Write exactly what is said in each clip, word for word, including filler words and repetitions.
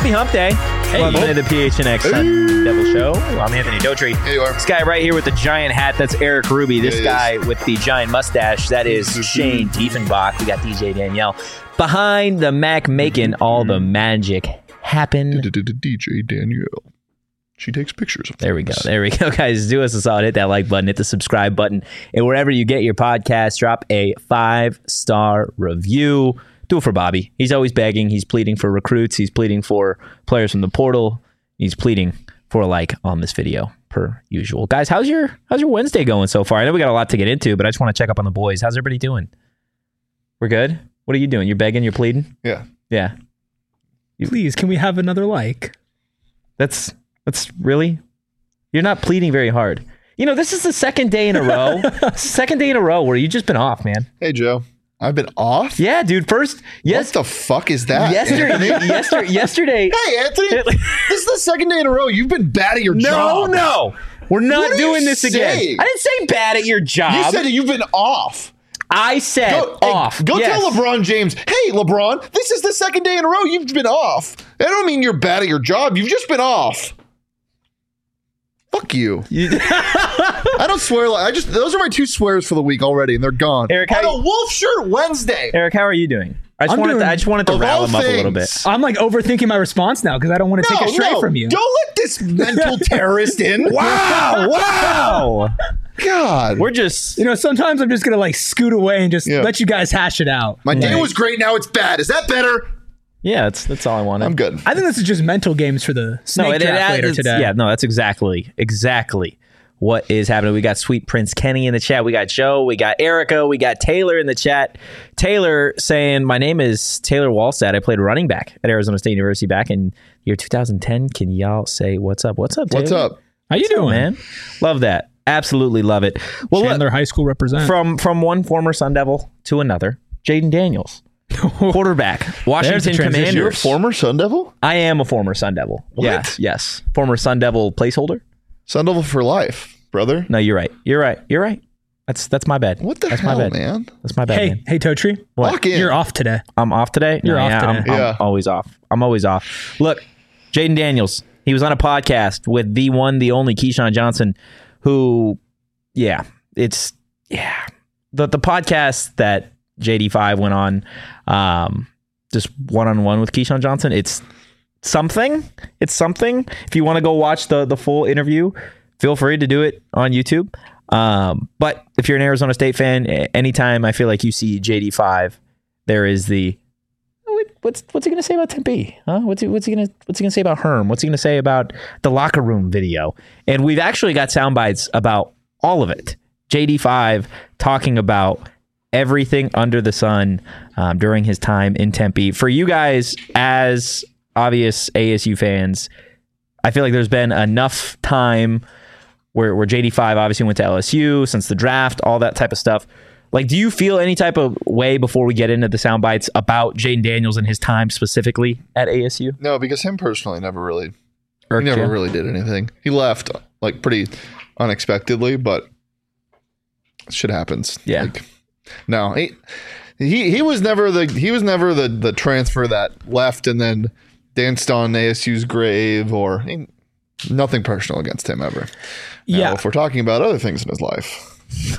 Happy Hump Day. Hey. Welcome to the P H N X Sun Devil Show. I'm Anthony Daughtry. Hey, you are. This guy right here with the giant hat, that's Eric Ruby. This yeah, guy with the giant mustache, that is Shane Diefenbach. We got D J Danielle. Behind the Mac making all the magic happen. D J Danielle. She takes pictures of There we go. There we go, guys. Do us a solid. Hit that like button. Hit the subscribe button. And wherever you get your podcast, drop a five-star review. Do it for Bobby. He's always begging. He's pleading for recruits. He's pleading for players from the portal. He's pleading for a like on this video, per usual. Guys, how's your how's your Wednesday going so far? I know we got a lot to get into, but I just want to check up on the boys. How's everybody doing? We're good? What are you doing? You're begging? You're pleading? Yeah. Yeah. Please, can we have another like? That's... That's really, you're not pleading very hard. You know, this is the second day in a row, second day in a row where you've just been off, man. Hey, Joe. I've been off? Yeah, dude. First, yes. What the fuck is that? Yesterday, yesterday, yesterday. Hey, Anthony. This is the second day in a row. You've been bad at your no, job. No, no. We're not what doing this saying? again. I didn't say bad at your job. You said that you've been off. I said go, off. Hey, go yes. tell LeBron James, hey, LeBron, this is the second day in a row you've been off. I don't mean you're bad at your job. You've just been off. Fuck you. I don't swear. I just those are my two swears for the week already, and they're gone. Eric, on how a wolf shirt Wednesday. Eric, how are you doing? I just I'm wanted doing, to, I just wanted to of rile all him up a little things. bit. I'm like overthinking my response now because I don't want to No, take it straight no, from you. Don't let this mental terrorist in. Wow! Wow! God, We're just You know, sometimes I'm just gonna like scoot away and just Yeah. let you guys hash it out. my day was great. Now it's bad. Is that better? yeah. That's that's all I wanted. I'm good. I think this is just mental games for the snake it- draft it- later it's- today. Yeah, no, that's exactly, exactly what is happening. We got Sweet Prince Kenny in the chat. We got Joe. We got Erica. We got Taylor in the chat. Taylor saying, my name is Taylor Wallstad. I played running back at Arizona State University back in year two thousand ten. Can y'all say what's up? What's up, Taylor? What's up? How you What's up, doing, man? Love that. Absolutely love it. Well, look, Chandler High School represent. from, from one former Sun Devil to another, Jaden Daniels. Quarterback, Washington transition. Commanders. You're a former Sun Devil? I am a former Sun Devil. What? Yes, yes. Former Sun Devil placeholder. Sun Devil for life, brother. No, you're right. You're right. You're right. That's that's my bad. What the that's hell, my bad. man? That's my bad. hey, man. hey, Totri. What? Lock in. You're off today. I'm off today. You're off yeah, today. I'm, I'm Yeah. always off. I'm always off. Look, Jaden Daniels. He was on a podcast with the one, the only Keyshawn Johnson, who, yeah, it's yeah, the the podcast that J D five went on, um, just one on one with Keyshawn Johnson. It's something. It's something. If you want to go watch the the full interview, feel free to do it on YouTube. Um, but if you're an Arizona State fan, anytime I feel like you see J D five, there is the what's what's he gonna say about Tempe? Huh? What's he what's he gonna what's he gonna say about Herm? What's he gonna say about the locker room video? And we've actually got sound bites about all of it. J D five talking about everything under the sun um, during his time in Tempe. For you guys, as obvious A S U fans, I feel like there's been enough time where where J D five obviously went to L S U since the draft, all that type of stuff. Like, do you feel any type of way before we get into the sound bites about Jaden Daniels and his time specifically at A S U? No, because him personally never really, Irked he never you? really did anything. He left like pretty unexpectedly, but shit happens. Yeah. Like, no, he, he he was never the he was never the the transfer that left and then danced on A S U's grave or he, nothing personal against him ever. Now, Yeah. if we're talking about other things in his life,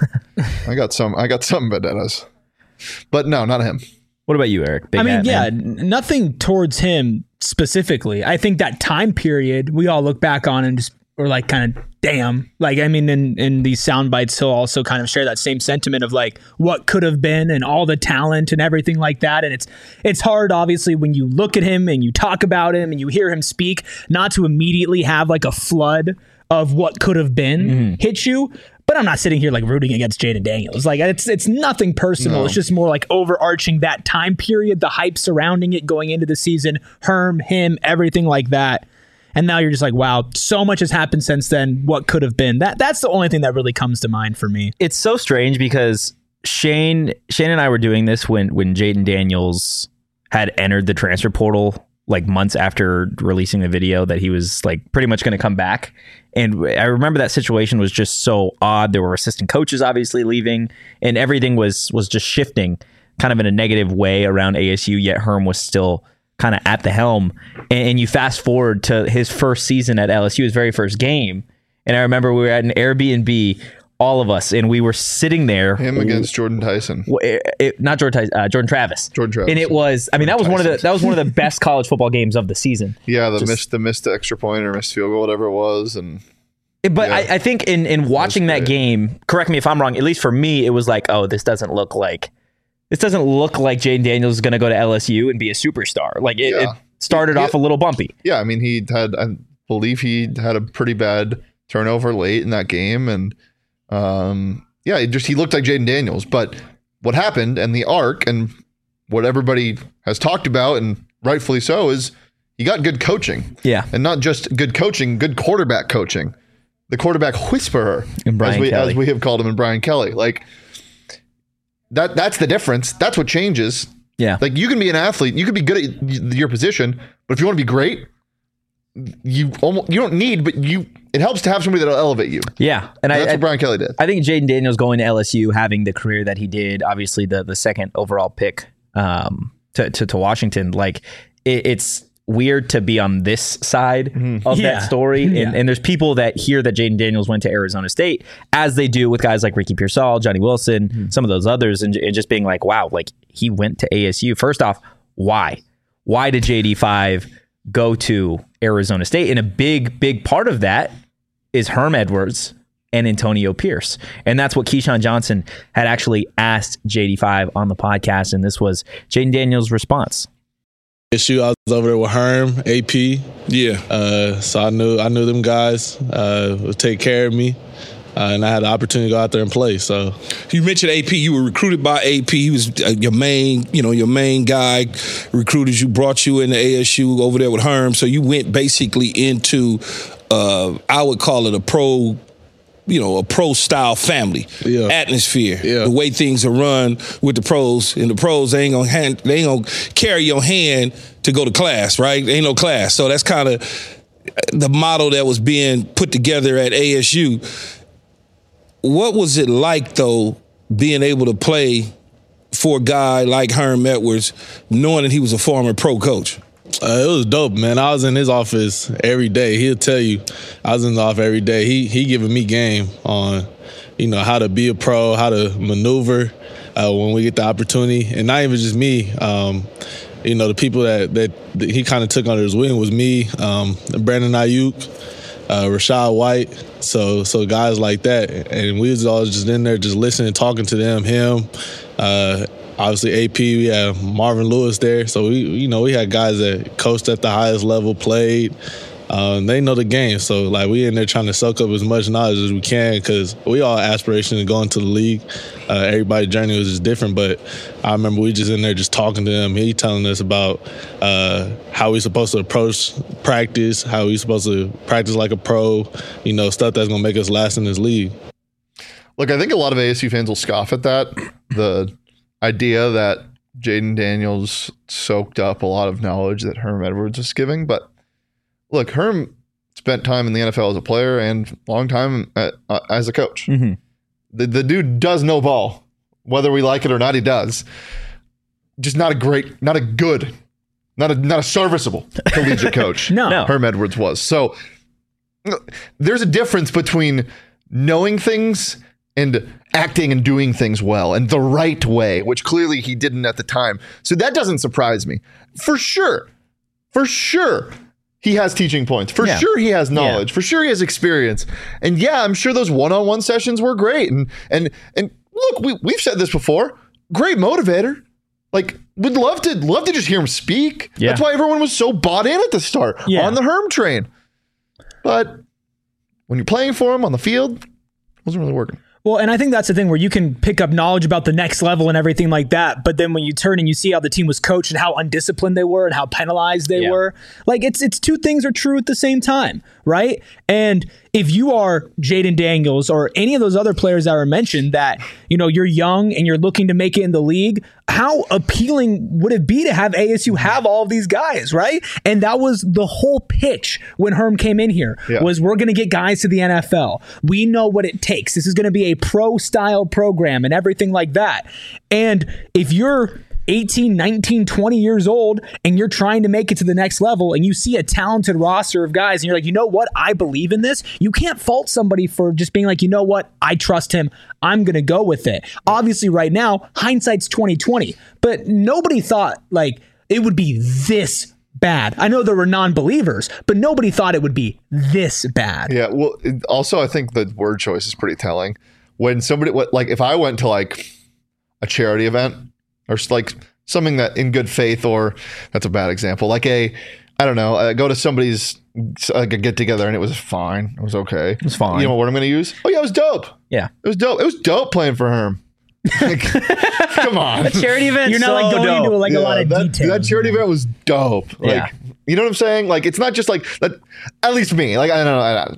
I got some I got some vendettas, but no, not him. What about you, Eric? Big I mean, hat, yeah, man. n- nothing towards him specifically. I think that time period we all look back on and just we're like, kind of, damn. Like, I mean, in, in these sound bites, he'll also kind of share that same sentiment of like what could have been and all the talent and everything like that. And it's it's hard, obviously, when you look at him and you talk about him and you hear him speak, not to immediately have like a flood of what could have been Mm-hmm. hit you. But I'm not sitting here like rooting against Jaden Daniels. Like it's it's nothing personal. No. It's just more like overarching that time period, the hype surrounding it going into the season, Herm, him, everything like that. And now you're just like, wow, so much has happened since then. What could have been? That that's the only thing that really comes to mind for me. It's so strange because Shane Shane and I were doing this when when Jaden Daniels had entered the transfer portal like months after releasing the video that he was like pretty much going to come back. And I remember that situation was just so odd. There were assistant coaches obviously leaving and everything was was just shifting kind of in a negative way around A S U, yet Herm was still kind of at the helm, and, and you fast forward to his first season at L S U, his very first game, and I remember we were at an Airbnb, all of us, and we were sitting there. Him against Jordan Tyson. It, it, not Jordan Tyson, uh, Jordan Travis. Jordan Travis. And it was, I mean, that was one of the that was one of the best college football games of the season. Yeah, the Just, missed the missed extra point or missed field goal, whatever it was, and. But yeah. I, I think in in watching that game, correct me if I'm wrong. At least for me, it was like, oh, this doesn't look like this doesn't look like Jayden Daniels is going to go to L S U and be a superstar. Like it, Yeah. it started Yeah. off a little bumpy. Yeah, I mean, he had, I believe he had a pretty bad turnover late in that game. And um, yeah, it just, he looked like Jayden Daniels. But what happened and the arc and what everybody has talked about, and rightfully so, is he got good coaching. Yeah. And not just good coaching, good quarterback coaching. The quarterback whisperer, And Brian as we, Kelly. as we have called him in Brian Kelly. Like, that that's the difference. That's what changes. Yeah. Like, you can be an athlete, you can be good at y- your position, but if you want to be great, you almost you don't need, but you it helps to have somebody that'll elevate you. Yeah. And And I, that's I, what Brian Kelly did. I think Jayden Daniels going to L S U, having the career that he did, obviously the the second overall pick um, to, to to Washington, like it, it's weird to be on this side of Yeah. that story. And, Yeah. and there's people that hear that Jayden Daniels went to Arizona State, as they do with guys like Ricky Pearsall, Johnny Wilson, some of those others, and, and just being like, wow, like he went to A S U. First off, why? Why did J D five go to Arizona State? And a big, big part of that is Herm Edwards and Antonio Pierce. And that's what Keyshawn Johnson had actually asked J D five on the podcast. And this was Jayden Daniels' response. Issue, I was over there with Herm, A P. Yeah. Uh, so I knew I knew them guys uh, would take care of me, uh, and I had the opportunity to go out there and play. So You mentioned A P. You were recruited by A P. He was uh, your main, you know, your main guy. Recruited you, brought you into A S U over there with Herm. So you went basically into, uh, I would call it a pro, you know, a pro style family Yeah. atmosphere. Yeah. The way things are run with the pros, and the pros they ain't gonna hand, they ain't gonna carry your hand to go to class, right? Ain't no class. So that's kind of the model that was being put together at A S U. What was it like, though, being able to play for a guy like Herm Edwards, knowing that he was a former pro coach? uh, it was dope, man. I was in his office every day. He'll tell you, I was in his office every day. He he giving me game on, you know, how to be a pro, how to maneuver uh, when we get the opportunity, and not even just me. Um, you know, the people that that, that he kind of took under his wing was me, um, Brandon Ayuk, uh, Rashad White. So so guys like that, and we was all just in there, just listening, talking to them. Him, uh, obviously A P. We had Marvin Lewis there. So we, you know, we had guys that coached at the highest level, played. Um, they know the game, so like we in there trying to soak up as much knowledge as we can, because we all have aspiration to go into the league. Uh, everybody's journey was just different, but I remember we just in there just talking to him. He telling us about uh, how we supposed to approach practice, how we supposed to practice like a pro, you know, stuff that's gonna make us last in this league. Look, I think a lot of A S U fans will scoff at that. The idea that Jayden Daniels soaked up a lot of knowledge that Herm Edwards was giving, but look, Herm spent time in the N F L as a player and long time at, uh, as a coach. Mm-hmm. The, the dude does know ball. Whether we like it or not, he does. Just not a great, not a good, not a not a serviceable collegiate coach. No. No. Herm Edwards was. So there's a difference between knowing things and acting and doing things well and the right way, which clearly he didn't at the time. So that doesn't surprise me. For sure. For sure. He has teaching points. For Yeah. sure he has knowledge. For sure he has experience. And yeah, I'm sure those one-on-one sessions were great. And and and look, we we've said this before. Great motivator. Like, would love to love to just hear him speak. Yeah. That's why everyone was so bought in at the start Yeah. on the Herm train. But when you're playing for him on the field, it wasn't really working. Well, and I think that's the thing where you can pick up knowledge about the next level and everything like that. But then when you turn and you see how the team was coached and how undisciplined they were and how penalized they Yeah. were, like it's it's two things are true at the same time, right? And if you are Jayden Daniels or any of those other players that were mentioned that, you know, you're young and you're looking to make it in the league, how appealing would it be to have A S U have all of these guys, right? And that was the whole pitch when Herm came in here, Yeah. was we're going to get guys to the N F L. We know what it takes. This is going to be a pro-style program and everything like that. And if you're eighteen, nineteen, twenty years old and you're trying to make it to the next level and you see a talented roster of guys and you're like, you know what? I believe in this. You can't fault somebody for just being like, you know what? I trust him. I'm going to go with it. Obviously right now, hindsight's twenty twenty, but nobody thought like it would be this bad. I know there were non-believers, but nobody thought it would be this bad. Yeah. Well, it- also, I think the word choice is pretty telling. When somebody, what, like, if I went to like a charity event or s- like something that in good faith, or that's a bad example, like a, I don't know, I go to somebody's like a get together and it was fine. It was okay. It was fine. You know what word I'm going to use? Oh yeah, it was dope. Yeah. It was dope. It was dope playing for Herm. Like, come on. Charity event. You're not so like going dope. into like a lot of that, detail. that charity event was dope. Like, Yeah. you know what I'm saying? Like, it's not just like that. At least me. Like, I don't know. I,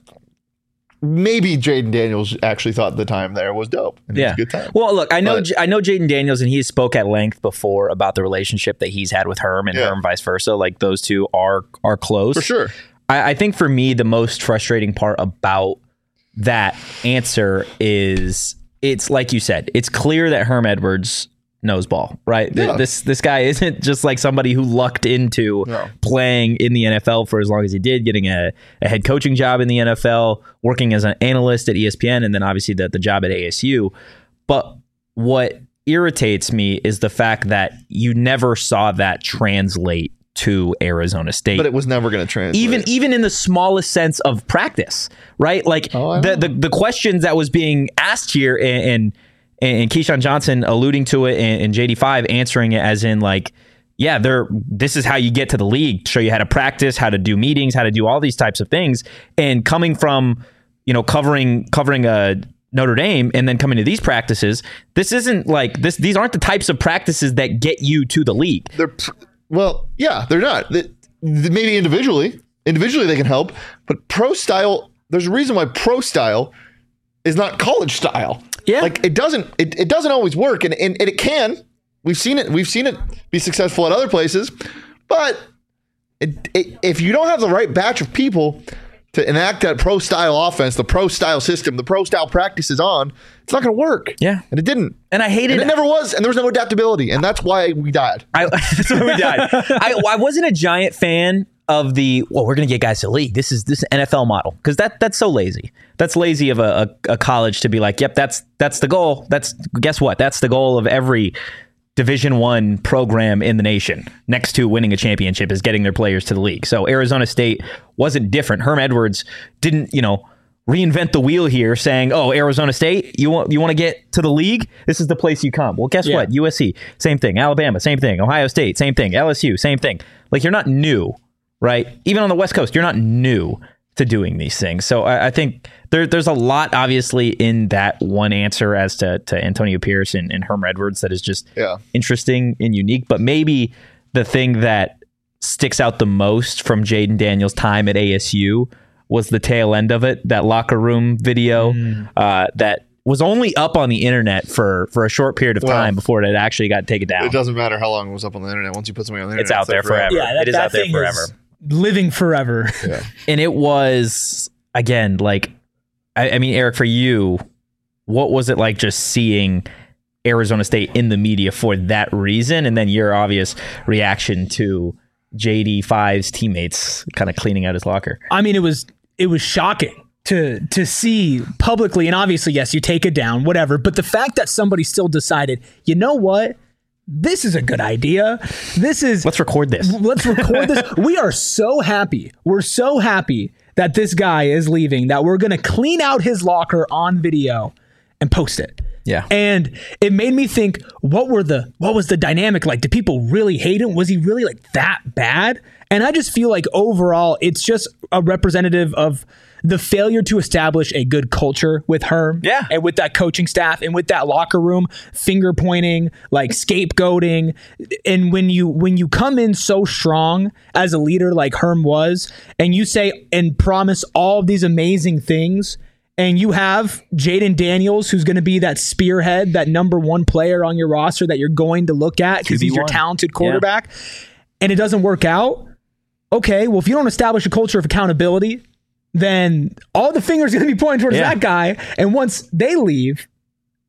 maybe Jaden Daniels actually thought the time there was dope. And it was Yeah. a good time. Well, look, I know But- J- I know Jaden Daniels, and he spoke at length before about the relationship that he's had with Herm and Yeah. Herm vice versa. Like those two are are close For sure. I, I think for me, the most frustrating part about that answer is it's like you said, it's clear that Herm Edwards knows ball, right? Th- Yeah. This this guy isn't just like somebody who lucked into No. playing in the N F L for as long as he did, getting a, a head coaching job in the N F L, working as an analyst at E S P N, and then obviously the, the job at A S U. But what irritates me is the fact that you never saw that translate to Arizona State. But it was never going to translate. even even in the smallest sense of practice, right? Like Oh, I the, know. the the questions that was being asked here, and and, and Keyshawn Johnson alluding to it, and, and J D five answering it as in like, yeah, they're this is how you get to the league, show you how to practice, how to do meetings, how to do all these types of things, and coming from you know covering covering a Notre Dame and then coming to these practices, this isn't like this. These aren't the types of practices that get you to the league. they're pr- well, yeah, they're not. They- they- maybe individually, individually they can help, but pro style. There's a reason why pro style is not college style. Yeah. like it doesn't. It, it doesn't always work, and, and and it can. We've seen it. We've seen it be successful at other places, but it, it, if you don't have the right batch of people to enact that pro style offense, the pro style system, the pro style practices on, it's not going to work. Yeah. and it didn't. And I hated And it never was, and there was no adaptability, and that's why we died. I, that's why we died. I, I wasn't a giant fan of the well, we're going to get guys to the league. This is this N F L model because that that's so lazy. That's lazy of a, a, a college to be like, yep, that's that's the goal. That's guess what? That's the goal of every Division One program in the nation. Next to winning a championship is getting their players to the league. So Arizona State wasn't different. Herm Edwards didn't, you know. reinvent the wheel here saying, oh, Arizona State, you want you want to get to the league? This is the place you come. Well, guess Yeah. what? U S C, same thing. Alabama, same thing. Ohio State, same thing. L S U, same thing. Like, you're not new, right? Even on the West Coast, you're not new to doing these things. So I, I think there, there's a lot, obviously, in that one answer as to, to Antonio Pierce and, and Herm Edwards that is just Yeah. interesting and unique. But maybe the thing that sticks out the most from Jaden Daniels' time at A S U was the tail end of it, that locker room video uh, that was only up on the internet for, for a short period of Well, time before it actually got taken down. It doesn't matter how long it was up on the internet. Once you put something on the internet, It's out there forever. Yeah, that, It is that out there thing forever. is living forever. Yeah. And it was, again, like, I, I mean, Eric, for you, what was it like just seeing Arizona State in the media for that reason? And then your obvious reaction to J D five's teammates kind of cleaning out his locker. I mean, it was it was shocking to to see publicly, and obviously, yes, you take it down, whatever. But the fact that somebody still decided, you know what, this is a good idea. This is Let's record this. let's record this. We are so happy. We're so happy that this guy is leaving that we're gonna clean out his locker on video and post it. Yeah. And it made me think, what were the what was the dynamic like? Did people really hate him? Was he really like that bad? And I just feel like overall it's just a representative of the failure to establish a good culture with Herm. Yeah. And with that coaching staff and with that locker room, finger pointing, like scapegoating. And when you when you come in so strong as a leader like Herm was, and you say and promise all of these amazing things, and you have Jaden Daniels, who's going to be that spearhead, that number one player on your roster that you're going to look at because he's your two v one. talented quarterback, and it doesn't work out. Okay, well, if you don't establish a culture of accountability, then all the fingers are going to be pointing towards Yeah. that guy. And once they leave,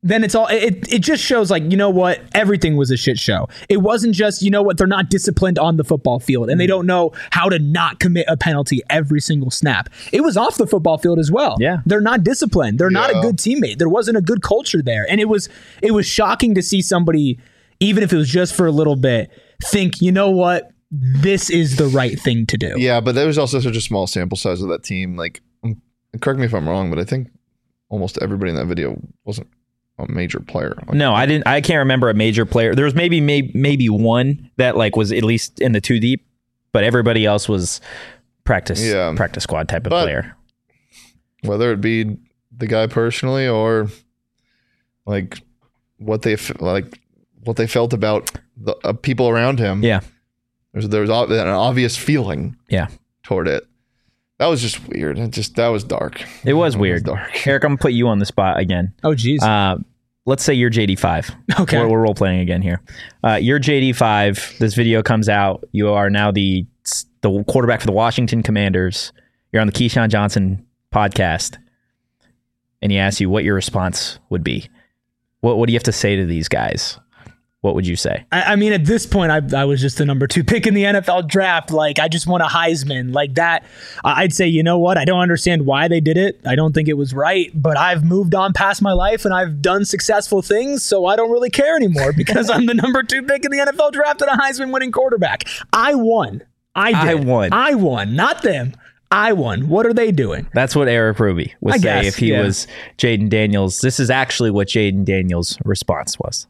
then it's all it, it just shows like, you know what, everything was a shit show. It wasn't just, you know what, they're not disciplined on the football field and they don't know how to not commit a penalty every single snap. It was off the football field as well. Yeah. They're not disciplined. They're not a Yeah. good teammate. There wasn't a good culture there. And it was it was shocking to see somebody, even if it was just for a little bit, think, you know what, this is the right thing to do. Yeah, but there was also such a small sample size of that team. Like, um, correct me if I'm wrong, but I think almost everybody in that video wasn't a major player. Like, No, I didn't. I can't remember a major player. There was maybe maybe maybe one that like was at least in the two deep, but everybody else was practice Yeah. practice squad type of But- player. whether it be the guy personally or like what they f- like what they felt about the uh, people around him. Yeah, There's there was ob- an obvious feeling yeah, toward it. That was just weird. It just that was dark. it was weird. dark. Eric, I'm gonna put you on the spot again. Oh, geez. Uh, let's say you're J D five. Okay. We're, we're role playing again here. Uh, you're J D five. This video comes out. You are now the the quarterback for the Washington Commanders. You're on the Keyshawn Johnson podcast, and he asks you what your response would be. What What do you have to say to these guys? What would you say? I, I mean, at this point, I, I was just the number two pick in the N F L draft. Like, I just won a Heisman. Like that, I- I'd say, you know what? I don't understand why they did it. I don't think it was right, but I've moved on past my life and I've done successful things, so I don't really care anymore because I'm the number two pick in the N F L draft and a Heisman winning quarterback. I won. I did. I won. I won. Not them. I won. What are they doing? That's what Eric Ruby would I say guess, if he yeah. was Jaden Daniels. This is actually what Jaden Daniels' response was.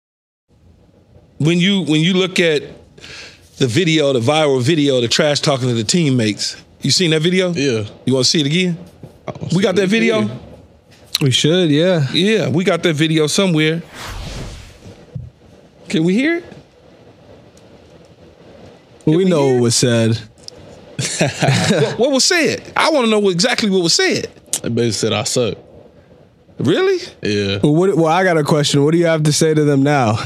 When you when you look at the video, the viral video, the trash talking to the teammates, you seen that video? Yeah. You want to see it again? We got that video? We should, yeah. Yeah, we got that video somewhere. Can we hear it? we, we know hear? what was said. what, what was said? I want to know what, exactly what was said. They basically said I suck. Really? Yeah. Well, what, well, I got a question. What do you have to say to them now?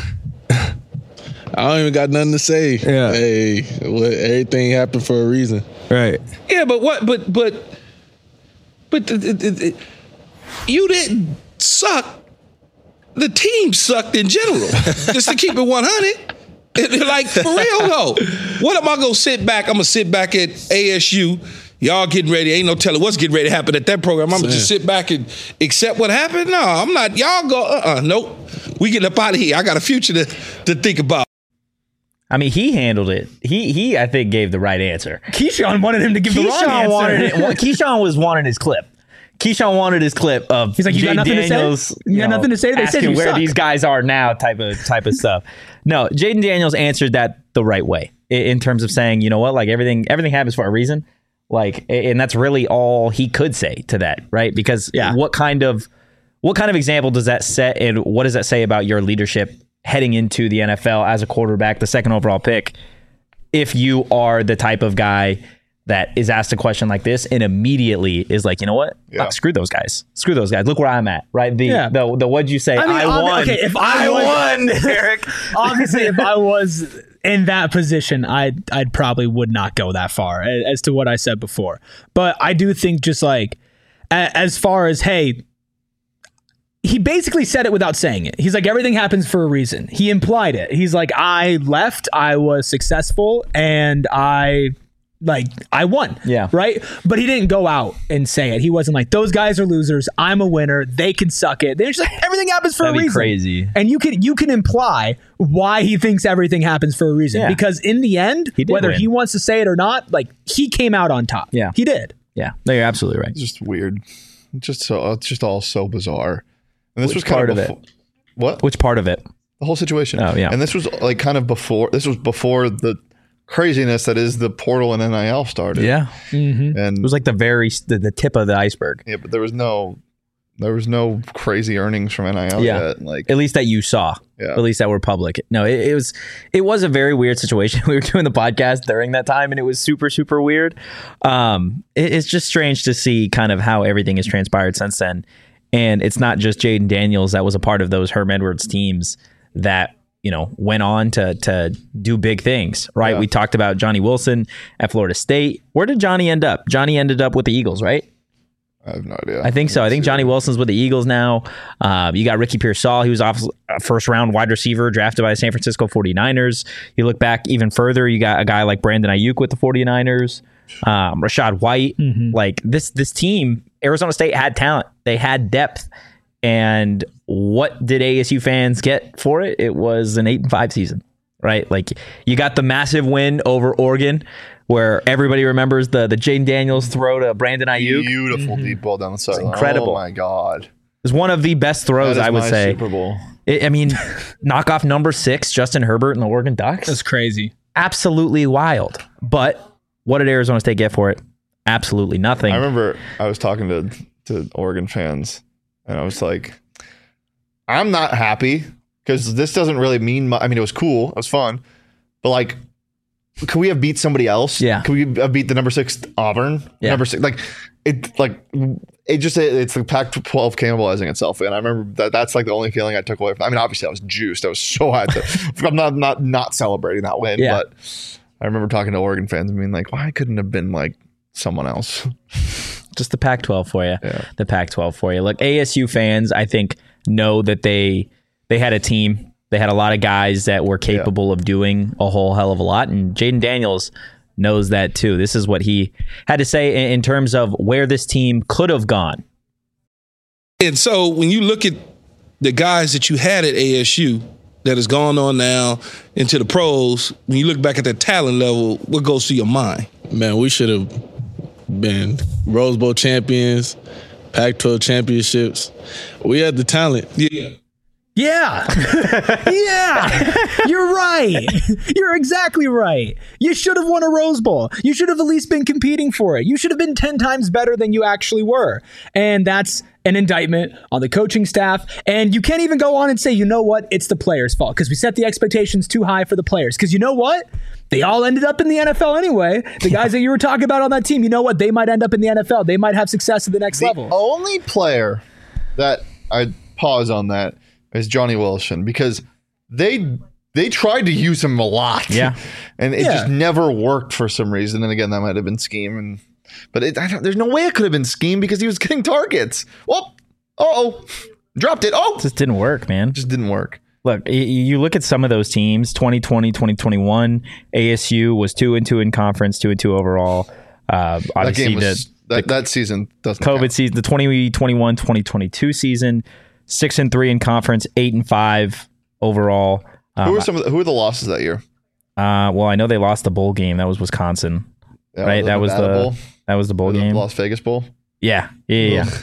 I don't even got nothing to say. Yeah. Hey, what, everything happened for a reason. Right. Yeah, but what? But but but th- th- th- th- you didn't suck. The team sucked in general. Just to keep it one hundred. Like, for real though. What am I gonna sit back? I'm gonna sit back at A S U. Y'all getting ready. Ain't no telling what's getting ready to happen at that program. I'm gonna just sit back and accept what happened. No, I'm not. Y'all go. Uh. Uh. Nope. We getting up out of here. I got a future to to think about. I mean, he handled it. He he, I think, gave the right answer. Keyshawn wanted him to give the wrong Keyshawn answer. wanted it. well, Keyshawn was wanting his clip. Keyshawn wanted his clip of He's like, you got Jay nothing to say? Daniels. You got nothing to say? They said asking you where suck. these guys are now, type of type of stuff. No, Jaden Daniels answered that the right way i- in terms of saying, you know what, like everything everything happens for a reason. Like, a- and that's really all he could say to that, right? Because Yeah. what kind of what kind of example does that set, and what does that say about your leadership heading into the N F L as a quarterback, the second overall pick? If you are the type of guy that is asked a question like this and immediately is like, you know what? Yeah. Ah, screw those guys. Screw those guys. Look where I'm at, right? The Yeah. the, the what'd you say? I, mean, obvi- won. Okay, if I, was, won, Eric. obviously, if I was in that position, I I probably would not go that far a- as to what I said before. But I do think just like a, as far as hey, he basically said it without saying it. He's like, everything happens for a reason. He implied it. He's like, I left, I was successful, and I. Like, I won. Yeah. Right? But he didn't go out and say it. He wasn't like, those guys are losers. I'm a winner. They can suck it. They're just like, everything happens for That'd a be reason. crazy. And you can you can imply why he thinks everything happens for a reason. Yeah. Because in the end, He did whether win. he wants to say it or not, like he came out on top. Yeah. He did. Yeah, no, you're absolutely right. It's just weird. It's just so it's just all so bizarre. And this Which was kind part of, of it? befo- What? Which part of it? The whole situation. Oh, yeah. And this was like kind of before. This was before the craziness that is the portal and N I L started. Yeah, And it was like the very the, the tip of the iceberg. yeah, but there was no there was no crazy earnings from N I L Yeah. yet. Like At least that you saw. Yeah. At least that were public. No, it, it was it was a very weird situation. We were doing the podcast during that time, and it was super super weird. Um, it- it's just strange to see kind of how everything has transpired since then. And it's not just Jaden Daniels that was a part of those Herm Edwards teams that, you know, went on to to do big things, right? Yeah. We talked about Johnny Wilson at Florida State. Where did Johnny end up? Johnny ended up with the Eagles, right? I have no idea. I think so. I think Johnny Wilson's with the Eagles now. Uh, you got Ricky Pearsall. He was off a first-round wide receiver drafted by the San Francisco forty-niners. You look back even further, you got a guy like Brandon Ayuk with the forty-niners. Um, Rashad White. Mm-hmm. Like this, this team, Arizona State had talent. They had depth. And what did A S U fans get for it? It was an eight and five season, right? Like you got the massive win over Oregon, where everybody remembers the the Jaden Daniels throw to Brandon Ayuk. Beautiful mm-hmm. deep ball down the sideline. Incredible. Oh my God. It was one of the best throws, That is I would my say. Super Bowl. It, I mean, knock off number six, Justin Herbert and the Oregon Ducks. That's crazy. Absolutely wild. But what did Arizona State get for it? Absolutely nothing. I remember I was talking to, to Oregon fans, and I was like, I'm not happy because this doesn't really mean much. I mean, it was cool. It was fun. But like, could we have beat somebody else? Yeah. Could we have beat the number six Auburn? Yeah. Number six, like it, like it just it, it's the Pac twelve cannibalizing itself. And I remember that that's like the only feeling I took away from. I mean, obviously I was juiced. I was so high. To, I'm not not not celebrating that win. Yeah. But I remember talking to Oregon fans and being like, why couldn't it have been like someone else? Just the Pac twelve for you. Yeah. The Pac twelve for you. Look, A S U fans, I think, know that they they had a team. They had a lot of guys that were capable yeah. of doing a whole hell of a lot. And Jaden Daniels knows that too. This is what he had to say in, in terms of where this team could have gone. And so when you look at the guys that you had at A S U that has gone on now into the pros, when you look back at that talent level, what goes through your mind? Man, we should have been Rose Bowl champions, Pac twelve championships. We had the talent. Yeah. Yeah. yeah. You're right. You're exactly right. You should have won a Rose Bowl. You should have at least been competing for it. You should have been ten times better than you actually were. And that's an indictment on the coaching staff. And you can't even go on and say, you know what? It's the players' fault because we set the expectations too high for the players. Because you know what? They all ended up in the N F L anyway. The guys that you were talking about on that team, you know what? They might end up in the N F L. They might have success at the next the level. Only player that I pause on that is Johnny Wilson because they they tried to use him a lot. Yeah. And it Yeah. just never worked for some reason. And again, that might have been scheme. And but it, I don't, there's no way it could have been scheme because he was getting targets. Oh, oh, dropped it. Oh, It just didn't work, man. just didn't work. Look, y- you look at some of those teams, twenty twenty, twenty twenty-one, A S U was two and two in conference, two and two overall. Uh, That obviously, game was the, that, that season doesn't COVID count. season, the twenty twenty-one, twenty twenty-two season, six and three in conference, eight and five overall. Who Um, were some of the, who were the losses that year? uh, well, I know they lost the bowl game. That was Wisconsin, Yeah, right? That was Nevada the Bowl, that was the bowl or the game. Las Vegas Bowl. Yeah, yeah, yeah.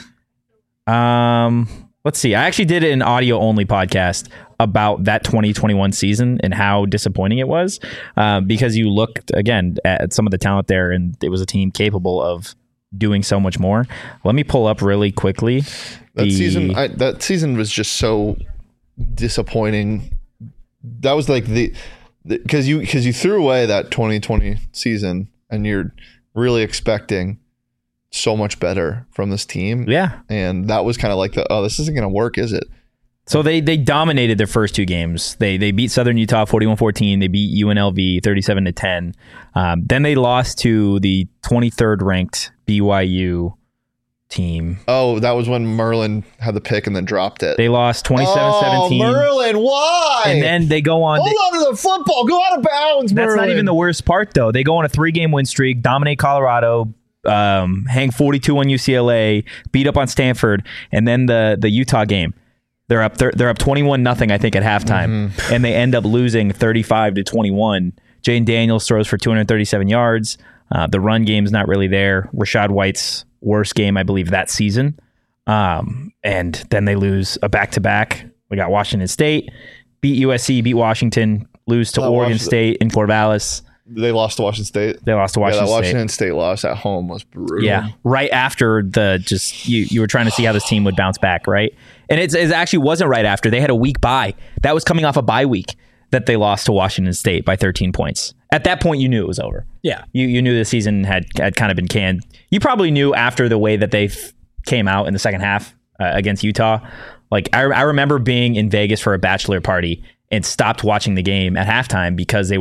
yeah. Um, let's see. I actually did an audio only podcast about that twenty twenty-one season and how disappointing it was, uh, because you looked again at some of the talent there, and it was a team capable of doing so much more. Let me pull up really quickly. That the- season, I, that season was just so disappointing. That was like the because you because you threw away that twenty twenty season, and you're really expecting so much better from this team. yeah. And that was kind of like the oh, this isn't going to work, is it? So they they dominated their first two games. They they beat Southern Utah forty-one fourteen. They beat U N L V thirty-seven to ten. Um, then they lost to the twenty-third ranked B Y U team. Oh, that was when Merlin had the pick and then dropped it. They lost twenty-seven seventeen. Oh, Merlin, why? And then they go on. hold they- on to the football. Go out of bounds, that's Merlin. not even the worst part, though. They go on a three-game win streak, dominate Colorado, um, hang forty-two on U C L A, beat up on Stanford, and then the the Utah game. They're up. They're, they're up twenty-one nothing, I think, at halftime, Mm-hmm. and they end up losing thirty-five to twenty-one. Jaden Daniels throws for two hundred thirty-seven yards. Uh, the run game's not really there. Rashad White's worst game, I believe, that season. Um, and then they lose a back-to-back. We got Washington State, beat U S C, beat Washington, lose to Oh, Oregon Washington- State in Corvallis. They lost to Washington State. They lost to Yeah, Washington that State. Washington State loss at home was brutal. Yeah, right after the just you you were trying to see how this team would bounce back, right? And it's, it actually wasn't right after. They had a week bye. That was coming off a bye week that they lost to Washington State by thirteen points. At that point, you knew it was over. Yeah. You you knew the season had had kind of been canned. You probably knew after the way that they f- came out in the second half uh, against Utah. Like I, I remember being in Vegas for a bachelor party and stopped watching the game at halftime because they were up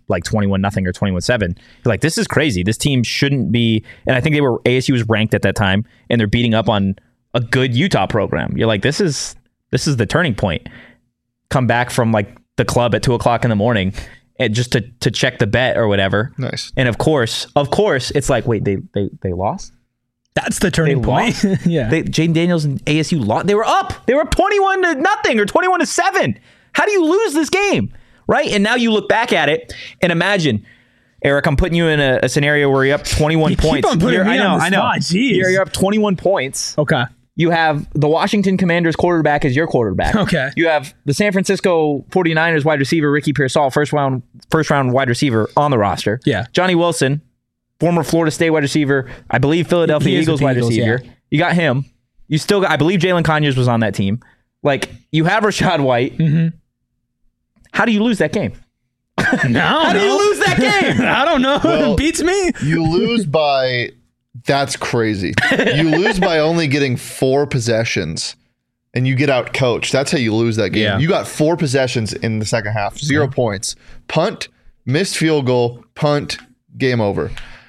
like twenty-one nothing or twenty-one seven. You're like, this is crazy. This team shouldn't be. And I think they were A S U was ranked at that time, and they're beating up on a good Utah program. You're like, this is this is the turning point. Come back from like the club at two o'clock in the morning, and just to to check the bet or whatever. Nice. And of course, of course, it's like, wait, they they they lost. That's the turning They point. lost? yeah. They, Jaden Daniels and A S U lost. They were up. They were up twenty-one to nothing or twenty-one to seven. How do you lose this game? Right? And now you look back at it and imagine, Eric, I'm putting you in a, a scenario where you're up twenty-one You keep points. on putting You're- me I know, on the I know. spot. Jeez. You're, you're up twenty-one points. okay. You have the Washington Commanders quarterback as your quarterback. Okay. You have the San Francisco forty-niners wide receiver Ricky Pearsall, first round first round wide receiver on the roster. Yeah. Johnny Wilson, former Florida State wide receiver, I believe Philadelphia He is Eagles with the wide Eagles, receiver. yeah. You got him. You still got, I believe Jalen Conyers was on that team. Like, you have Rashad White. Mm-hmm. How do you lose that game? No. How do you lose that game? I don't know. Well, it beats me. You lose by, that's crazy. You lose by only getting four possessions and you get out coached. That's how you lose that game. Yeah. You got four possessions in the second half, zero points. Punt, missed field goal, punt, game over.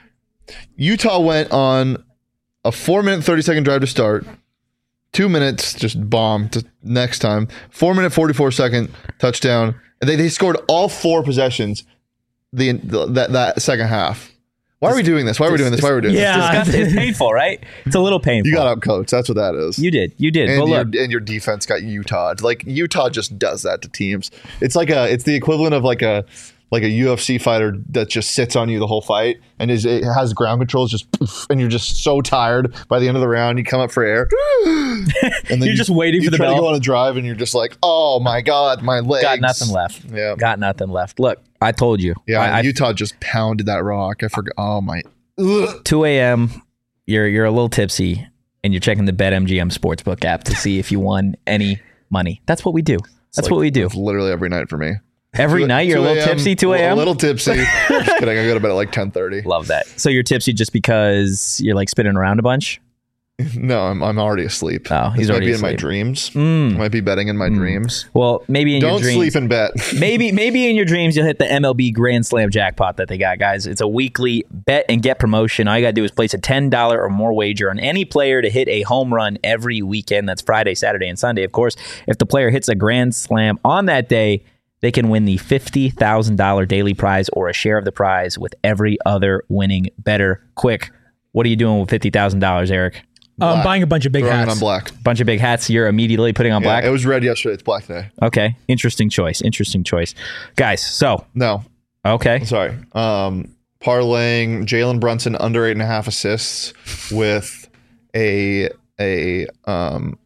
Utah went on a four minute, thirty second drive to start. Two minutes, just bomb to next time. Four minute, forty-four second touchdown. And they, they scored all four possessions the, the that, that second half. Why are we doing this? Why are we doing this? Why are we doing Yeah. this? Disgusting. It's painful, right? It's a little painful. You got out coach. That's what that is. You did. You did. and, But your, look, and your defense got Utah. Like Utah just does that to teams. It's like a. It's the equivalent of like a like a U F C fighter that just sits on you the whole fight and is it has ground controls just poof, and you're just so tired by the end of the round. You come up for air, and then You're you, just waiting you for the try bell. to go on a drive, and you're just like, oh my god, my legs. got nothing left. Yeah. Got nothing left. Look, I told you. Yeah, I, I, Utah just pounded that rock. I forgot. Oh my. Ugh. two a.m. You're you're a little tipsy, and you're checking the BetMGM Sportsbook app to see if you won any money. That's what we do. That's Like, what we do. it's literally every night for me. Every night you're a little tipsy, two A a.m.? little tipsy. Just kidding. I go to bed at like ten thirty. Love that. So you're tipsy just because you're like spinning around a bunch? No, I'm I'm already asleep. Oh, he's this already might be in my asleep. dreams. Mm. I might be betting in my dreams. Well, maybe in Don't your dreams. sleep and bet. maybe maybe in your dreams you'll hit the M L B Grand Slam jackpot that they got, guys. It's a weekly bet and get promotion. All you got to do is place a ten dollars or more wager on any player to hit a home run every weekend. That's Friday, Saturday, and Sunday. Of course, if the player hits a Grand Slam on that day, they can win the fifty thousand dollars daily prize or a share of the prize with every other winning better. Quick, what are you doing with fifty thousand dollars, Eric? Uh, I'm Black. buying a bunch of big Throwing it hats. on black. Bunch of big hats you're immediately putting on Yeah, black? it was red yesterday. It's black today. Okay, interesting choice. Interesting choice. Guys, so, No, okay. sorry. Um, parlaying Jalen Brunson under eight and a half assists with a a um,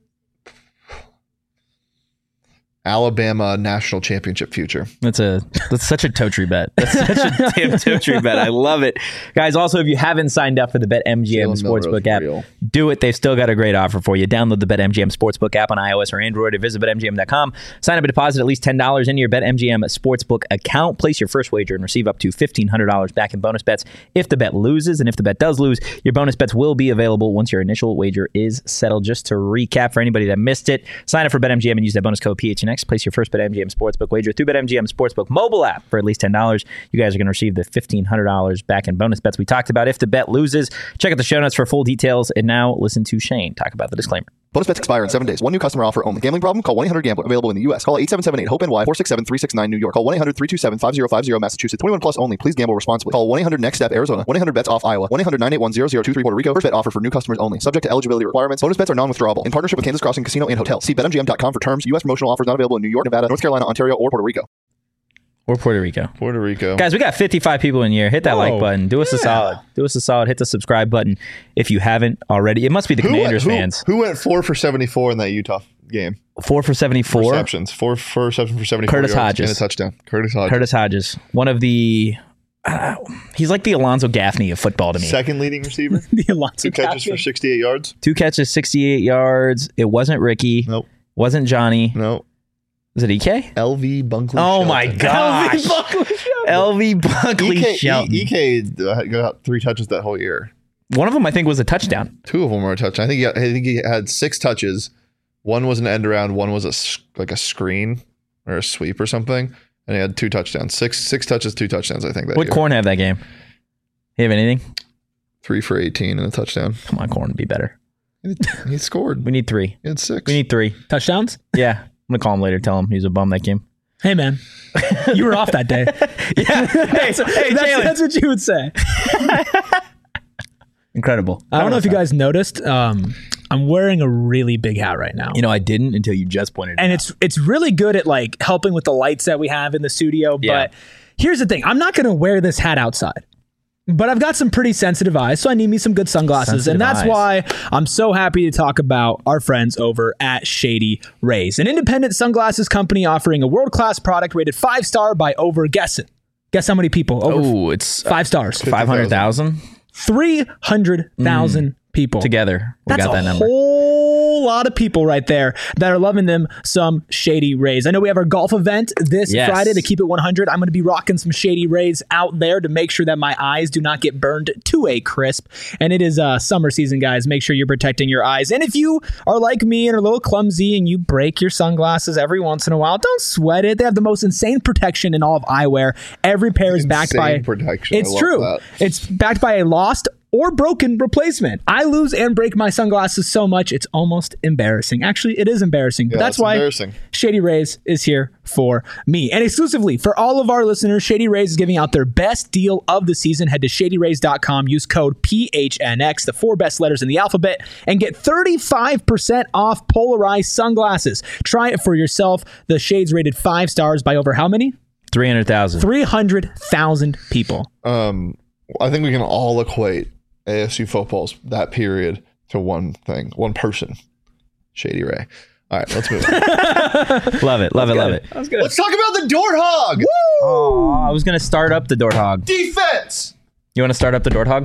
Alabama national championship future. That's a that's such a Totri bet. That's such a damn Totri bet. I love it. Guys, also, if you haven't signed up for the BetMGM Jalen Milroe's Sportsbook app, real. do it. They've still got a great offer for you. Download the BetMGM Sportsbook app on iOS or Android or visit bet M G M dot com. Sign up and deposit at least ten dollars into your BetMGM Sportsbook account. Place your first wager and receive up to fifteen hundred dollars back in bonus bets if the bet loses. And if the bet does lose, your bonus bets will be available once your initial wager is settled. Just to recap for anybody that missed it, sign up for BetMGM and use that bonus code P H N X. Place your first BetMGM Sportsbook wager through BetMGM Sportsbook mobile app for at least ten dollars. You guys are going to receive the fifteen hundred dollars back in bonus bets we talked about if the bet loses. Check out the show notes for full details. And now listen to Shane talk about the disclaimer. Bonus bets expire in seven days. One new customer offer only. Gambling problem? Call one eight hundred gambler. Available in the U S. Call eight seven seven eight hope N Y four six seven three six nine New York. Call one eight hundred three two seven five zero five zero Massachusetts. twenty-one plus only. Please gamble responsibly. Call one eight hundred next step Arizona. one eight hundred bets off Iowa. one eight hundred nine eight one zero zero two three Puerto Rico. First bet offer for new customers only. Subject to eligibility requirements. Bonus bets are non-withdrawable. In partnership with Kansas Crossing Casino and Hotel. See bet M G M dot com for terms. U S promotional offers not available in New York, Nevada, North Carolina, Ontario, or Puerto Rico. Or Puerto Rico. Puerto Rico. Guys, we got fifty-five people in here. Hit that like Whoa. button. Do us a solid. Do us a solid. Hit the subscribe button if you haven't already. It must be the Who went, Commanders who, fans. who went four for seventy-four in that Utah game? Four for seventy-four. Receptions. Four for reception for seventy-four Curtis yards Hodges. and a touchdown. Curtis Hodges. Curtis Hodges. One of the... Uh, he's like the Alonzo Gaffney of football to me. Second leading receiver. The Alonso Two catches for Gaffney. sixty-eight yards. Two catches, sixty-eight yards. It wasn't Ricky. Nope. Wasn't Johnny. No. Was it E K? L V Bunkley. Oh my Shelton. gosh. L V Bunkley E K, Shelton. E- EK uh, got three touches that whole year. One of them, I think, was a touchdown. Two of them were a touchdown. I think he got, I think he had six touches. One was an end around. One was a s- like a screen or a sweep or something. and he had two touchdowns, six six touches, two touchdowns. I think that What year. Corn have that game? You have anything? Three for eighteen and a touchdown. Come on, Corn, be better. He, he scored. We need three. He had six. We need three. Touchdowns? Yeah, I'm gonna call him later. Tell him he's a bum that game. Hey, man. You were off that day. Yeah. Hey, So hey, that's, Jalen. that's what you would say. Incredible. I don't know if you guys noticed. Um, I'm wearing a really big hat right now. You know, I didn't until you just pointed it and out. it's it's really good at like helping with the lights that we have in the studio. Yeah. But here's the thing: I'm not going to wear this hat outside. But I've got some pretty sensitive eyes, so I need me some good sunglasses. Sensitive and that's eyes. why I'm so happy to talk about our friends over at Shady Rays, an independent sunglasses company offering a world-class product rated five star by over guess it. Guess how many people? Over Oh, it's five stars. five hundred thousand three hundred thousand people. together. We That's got that a number. whole lot of people right there that are loving them some Shady Rays. I know we have our golf event this Yes. Friday to keep it one hundred. I'm going to be rocking some Shady Rays out there to make sure that my eyes do not get burned to a crisp. And it is uh, summer season, guys. Make sure you're protecting your eyes. And if you are like me and are a little clumsy and you break your sunglasses every once in a while, don't sweat it. They have the most insane protection in all of eyewear. Every pair is backed by Insane protection. I It's love true. that. It's backed by a lost or broken replacement. I lose and break my sunglasses so much, it's almost embarrassing. Actually, it is embarrassing. But Yeah, that's it's why embarrassing. Shady Rays is here for me. And exclusively for all of our listeners, Shady Rays is giving out their best deal of the season. Head to shady rays dot com, use code P H N X, the four best letters in the alphabet, and get thirty-five percent off polarized sunglasses. Try it for yourself. The shades rated five stars by over how many? three hundred thousand. three hundred thousand people. Um, I think we can all equate A S U football's that period to one thing, one person, Shady Ray. All right, let's move on. Love it. Love it. Love it. Let's talk about the Dort Hog. Oh, I was going to start up the Dort Hog. Defense. You want to start up the Dort Hog?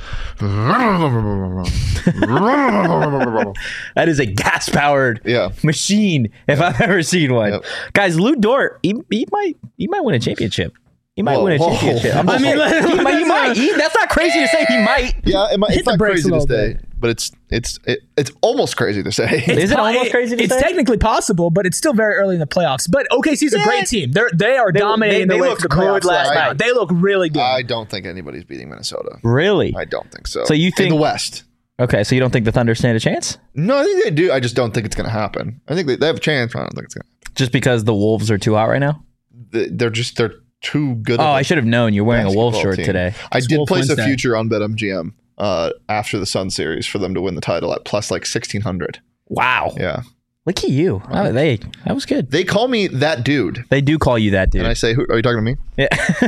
That is a gas-powered Yeah. machine if I've ever seen one. Yep. Guys, Lou Dort, he, he might he might win a championship. He might Whoa, win a whoa. championship. I'm I just mean, saying. he might. He might. He- that's not crazy to say. He might. Yeah, it might, Hit it's the not brakes crazy a to little say, bit. but it's it's it, it's almost crazy to say. Is it po- almost crazy to It's say? technically possible, but it's still very early in the playoffs. But O K C's a great team. They're they are They- dominating they- the they way looked to the good playoffs last last night. night. They look really good. I don't think anybody's beating Minnesota. Really? I don't think so. So you in think- the West? Okay, so you don't think the Thunder stand a chance? No, I think they do. I just don't think it's going to happen. I think they, they have a chance. I don't think it's going to. Just because the Wolves are too hot right now? They're just they're too good. Oh, of a I should have known you're wearing a Wolf basketball shirt team. today. I It's did Wolf place Wednesday. a future on BetMGM uh, after the Sun series for them to win the title at plus like sixteen hundred. Wow. Yeah, Look at you. Oh, they that was good. they call me that dude, They do call you that, dude. and I say, Who, "Are you talking to me?" yeah.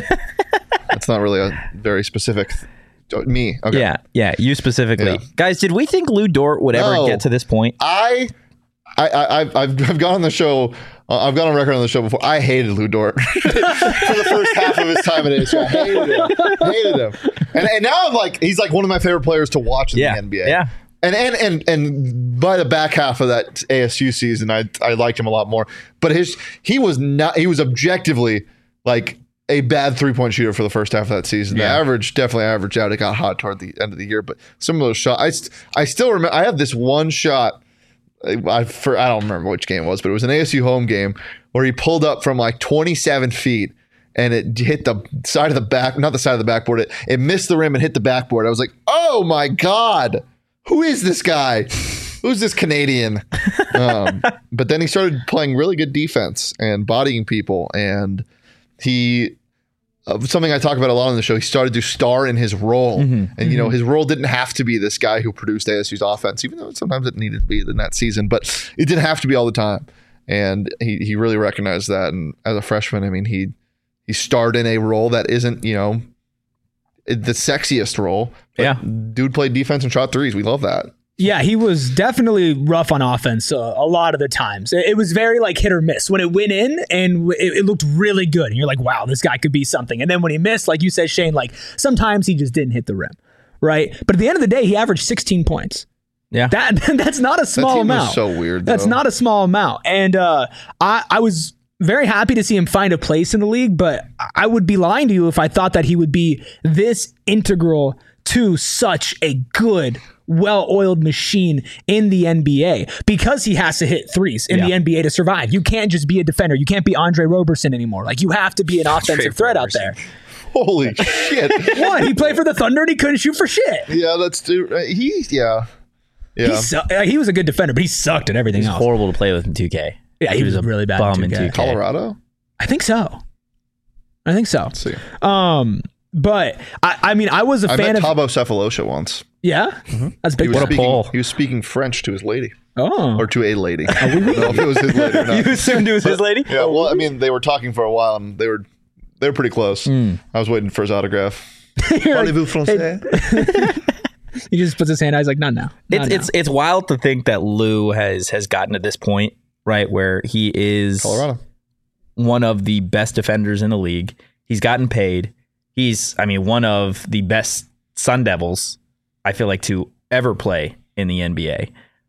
That's not really a very specific. Th- me, okay. yeah, yeah, you specifically. Yeah. Guys, did we think Lou Dort would ever No. get to this point? I, I, I, I've, I've, I've gone on the show. Uh, I've gone on record on the show before. I hated Lou Dort for the first half of his time at A S U. I hated him. Hated him. And, and now I'm like, he's like one of my favorite players to watch in Yeah, the N B A. yeah. And and and and by the back half of that A S U season, I I liked him a lot more. But his he was not. He was objectively like a bad three point shooter for the first half of that season. Yeah. The average definitely averaged out. It got hot toward the end of the year, but some of those shots, I, st- I still remember. I have this one shot. I for I don't remember which game it was, but it was an A S U home game where he pulled up from like twenty-seven feet and it hit the side of the back, not the side of the backboard. It it missed the rim and hit the backboard. I was like, oh my god, who is this guy? Who's this Canadian? Um, but then he started playing really good defense and bodying people, and he. Uh, something I talk about a lot on the show. He started to star in his role, Mm-hmm. and you know his role didn't have to be this guy who produced A S U's offense, even though sometimes it needed to be in that season. But it didn't have to be all the time, and he he really recognized that. And as a freshman, I mean he he starred in a role that isn't you know the sexiest role. But Yeah. dude played defense and shot threes. We love that. Yeah, he was definitely rough on offense uh, a lot of the times. It, it was very like hit or miss. When it went in and w- it, it looked really good, and you're like, wow, this guy could be something. And then when he missed, like you said, Shane, like sometimes he just didn't hit the rim, right? But at the end of the day, he averaged sixteen points. Yeah. That that's not a small team was amount. so weird, That's though. not a small amount. And uh, I I was very happy to see him find a place in the league, but I would be lying to you if I thought that he would be this integral to such a good, well-oiled machine in the N B A because he has to hit threes in Yeah. the N B A to survive. You can't just be a defender. You can't be Andre Roberson anymore. Like, you have to be an offensive threat out there. Holy shit. What? He played for the Thunder and he couldn't shoot for shit. Yeah, that's dude. He yeah. Yeah. He, su- uh, he was a good defender, but he sucked at everything He's else. horrible to play with in two K. Yeah, he was a really bad bum in in two K. two K. Colorado? I think so. I think so. Let's see. Um, but I, I mean, I was a I fan met of. Thabo Cephalosha once. Yeah, that's He big. was, What a speaking, pull. he was speaking French to his lady. Oh, Or to a lady. I don't know if it was his lady or not. You assumed it was his lady? Yeah, well, I mean, they were talking for a while and they were they were pretty close. Hmm. I was waiting for his autograph. You're like, Parlez-vous français? he just puts his hand out. He's like, not now. Not It's now. it's it's wild to think that Lou has has gotten to this point, right, where he is Colorado. one of the best defenders in the league. He's gotten paid. He's, I mean, one of the best Sun Devils, I feel like, to ever play in the N B A.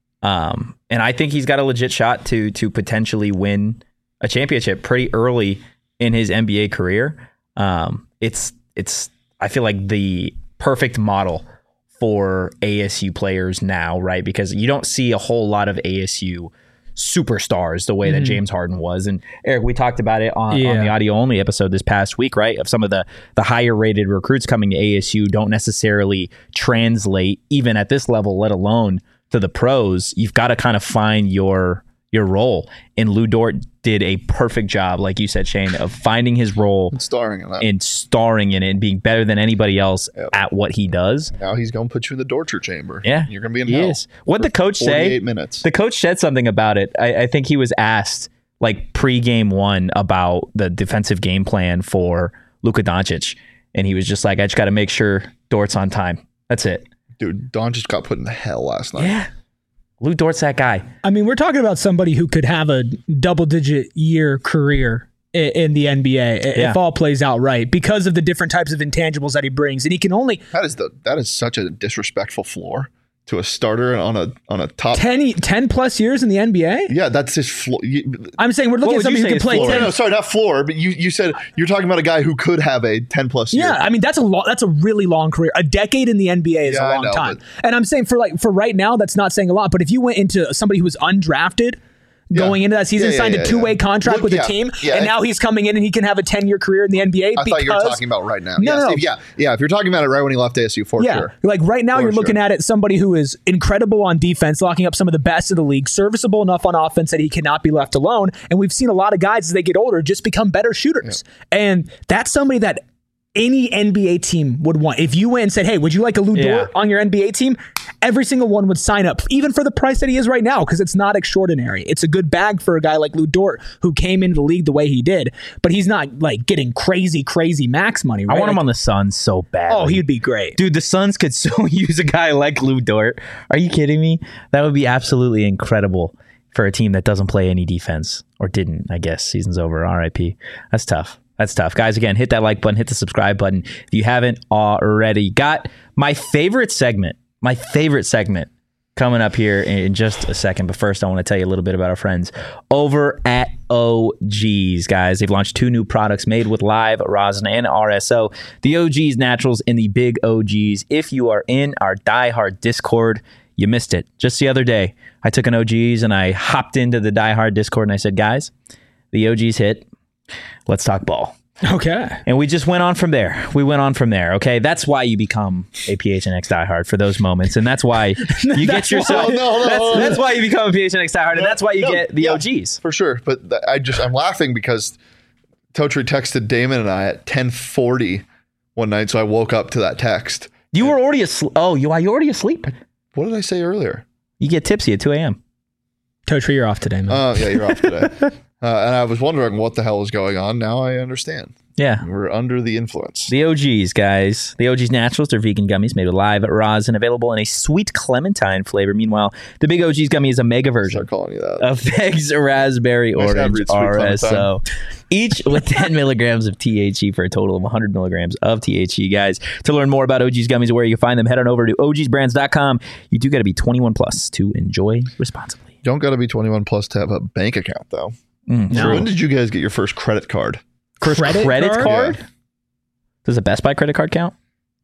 Um, and I think he's got a legit shot to to potentially win a championship pretty early in his N B A career. Um, it's it's I feel like the perfect model for A S U players now, right? Because you don't see a whole lot of A S U superstars the way that James Harden was. And Eric, we talked about it on, on Yeah. the audio only episode this past week, right? Of some of the the higher rated recruits coming to A S U don't necessarily translate even at this level, let alone to the pros. You've got to kind of find your your role. And Lou Dort did a perfect job, like you said, Shane, of finding his role Starring in that. and starring in it and being better than anybody else Yep. at what he does. Now he's going to put you in the torture chamber. Yeah, You're going to be in he hell. is. What for the coach say? forty-eight minutes. The coach said something about it. I, I think he was asked like pre-game one about the defensive game plan for Luka Doncic, and he was just like, "I just got to make sure Dort's on time. That's it." Dude, Don just got put in hell last night. Yeah, Lou Dort's that guy. I mean, we're talking about somebody who could have a double-digit year career i- in the N B A i- Yeah. if all plays out right because of the different types of intangibles that he brings, and he can only That is the that is such a disrespectful floor to a starter on a on a top. ten, e- ten plus years in the N B A. Yeah, that's his floor. You, I'm saying we're looking What at would you somebody who say can his play floor no, ten. no, sorry, not floor, but you you said you're talking about a guy who could have a ten plus year. Yeah, I mean that's a long, that's a really long career. A decade in the N B A is Yeah, a I long know, time. but- And I'm saying for like for right now, that's not saying a lot. But if you went into somebody who was undrafted going into that season, Yeah, yeah, signed yeah, a two way yeah. contract Look, with yeah, a team, yeah, and and- now he's coming in and he can have a ten year career in the N B A. I because, thought you were talking about right now. No, yes, no, no. If, yeah, yeah. If you're talking about it right when he left A S U, for Yeah, sure. like right now For you're looking sure. at it somebody who is incredible on defense, locking up some of the best in the league, serviceable enough on offense that he cannot be left alone. And we've seen a lot of guys as they get older just become better shooters. And that's somebody that any N B A team would want. If you went and said, "Hey, would you like a Lou Yeah. Dort on your N B A team?" Every single one would sign up, even for the price that he is right now, because it's not extraordinary. It's a good bag for a guy like Lou Dort who came into the league the way he did, but he's not like getting crazy, crazy max money. Right? I want him Like, on the Suns so bad. Oh, he'd be great. Dude, the Suns could so use a guy like Lou Dort. Are you kidding me? That would be absolutely incredible for a team that doesn't play any defense, or didn't, I guess. Season's over. R I P. That's tough. That's tough. Guys, again, hit that like button, hit the subscribe button if you haven't already. Got my favorite segment, my favorite segment coming up here in just a second. But first, I want to tell you a little bit about our friends over at O G's, guys. They've launched two new products made with live rosin and R S O. The O G's Naturals and the Big O G's. If you are in our Die Hard Discord, you missed it. Just the other day, I took an O G's and I hopped into the Die Hard Discord and I said, guys, the O G's hit. Let's talk ball. Okay. And we just went on from there. We went on from there. Okay. That's why you become a P H N X diehard for those moments. And that's why you get yourself. why- no, no, that's, no, no. that's why you become a P H N X diehard. And that's why you No, get the yeah, O Gs. for sure. But th- I just I'm laughing because Totri texted Damon and I at ten forty one night, so I woke up to that text. You were already asleep. Oh, you are you already asleep? What did I say earlier? You get tipsy at two a.m. Totri, you're off today, man. Oh, yeah, you're off today. Uh, and I was wondering what the hell was going on. Now I understand. Yeah. We're under the influence. The O Gs, guys. The O Gs Naturals. They're vegan gummies made with live rosin, available in a sweet clementine flavor. Meanwhile, the Big O Gs gummy is a mega version Start calling you that. of Figs, raspberry, Nice to orange, read sweet R S O. clementine. Each with ten milligrams of T H C for a total of one hundred milligrams of T H C, guys. To learn more about O G's gummies and where you can find them, head on over to O Gs brands dot com. You do got to be twenty-one plus to enjoy responsibly. You don't got to be twenty-one plus to have a bank account, though. Mm, No. When did you guys get your first credit card? First Credit credit, card? card? Yeah. Does a Best Buy credit card count?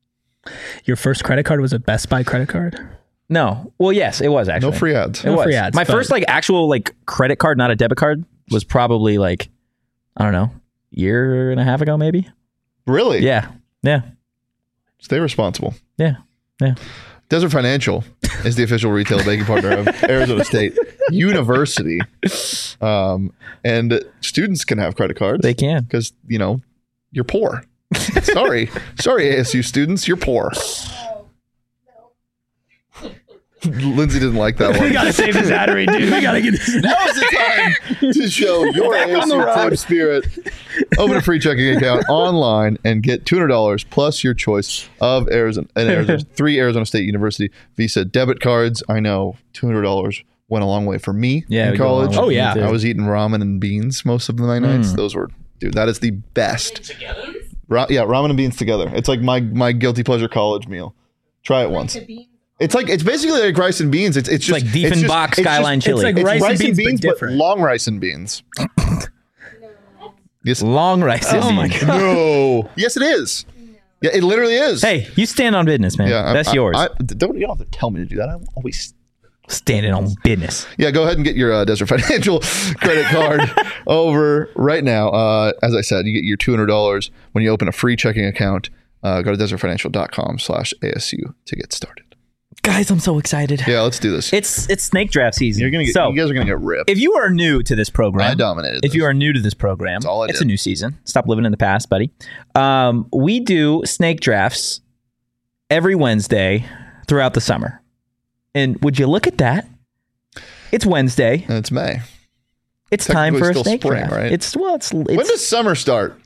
Your first credit card was a Best Buy credit card? No. Well, yes, it was actually. No free ads. It No was. free ads, My but- first like actual like credit card, not a debit card, was probably like, I don't know, year and a half ago, maybe. Really? Yeah. Yeah. Stay responsible. Yeah. Yeah. Desert Financial is the official retail banking partner of Arizona State University. Um, and students can have credit cards. They can. Because, you know, you're poor. Sorry. Sorry, A S U students, you're poor. Lindsay didn't like that one. We gotta save this ad read, dude. We gotta get this. Now is the time to show your A S U team spirit. Open a free checking account online and get two hundred dollars plus your choice of Arizona, and Arizona three Arizona State University Visa debit cards. I know two hundred dollars went a long way for me Yeah, in we go a long college. way. Oh, yeah. I was eating ramen and beans most of my nights. Those were, dude, that is the best. Ra- yeah, ramen and beans together. It's like my my guilty pleasure college meal. Try it once. It's like it's basically like rice and beans. It's it's just like it's just- Diefenbach it's just- Skyline it's chili. like It's rice rice, and and beans, beans, but but, different. long rice and beans. Yes. Long rice. Oh my God. No. Yes, it is. Yeah, it literally is. Hey, you stand on business, man. yeah, I- That's I- yours. I, don't you don't have to tell me to do that. I'm always. Standing on business. Yeah, go ahead and get your uh, Desert Financial credit card over right now. Uh, as I said, you get your two hundred dollars when you open a free checking account. Uh, go to desertfinancial.com slash ASU to get started. Guys, I'm so excited. Yeah, let's do this. It's it's snake draft season. You're gonna get. so you guys are gonna get ripped. if you are new to this program, I dominated. If you this. are new to this program, all I it's did. a new season. Stop living in the past, buddy. Um, we do snake drafts every Wednesday throughout the summer. And would you look at that? It's Wednesday. And it's May. It's time Technically for a still snake spring, draft. right? It's well, it's, it's When does summer start?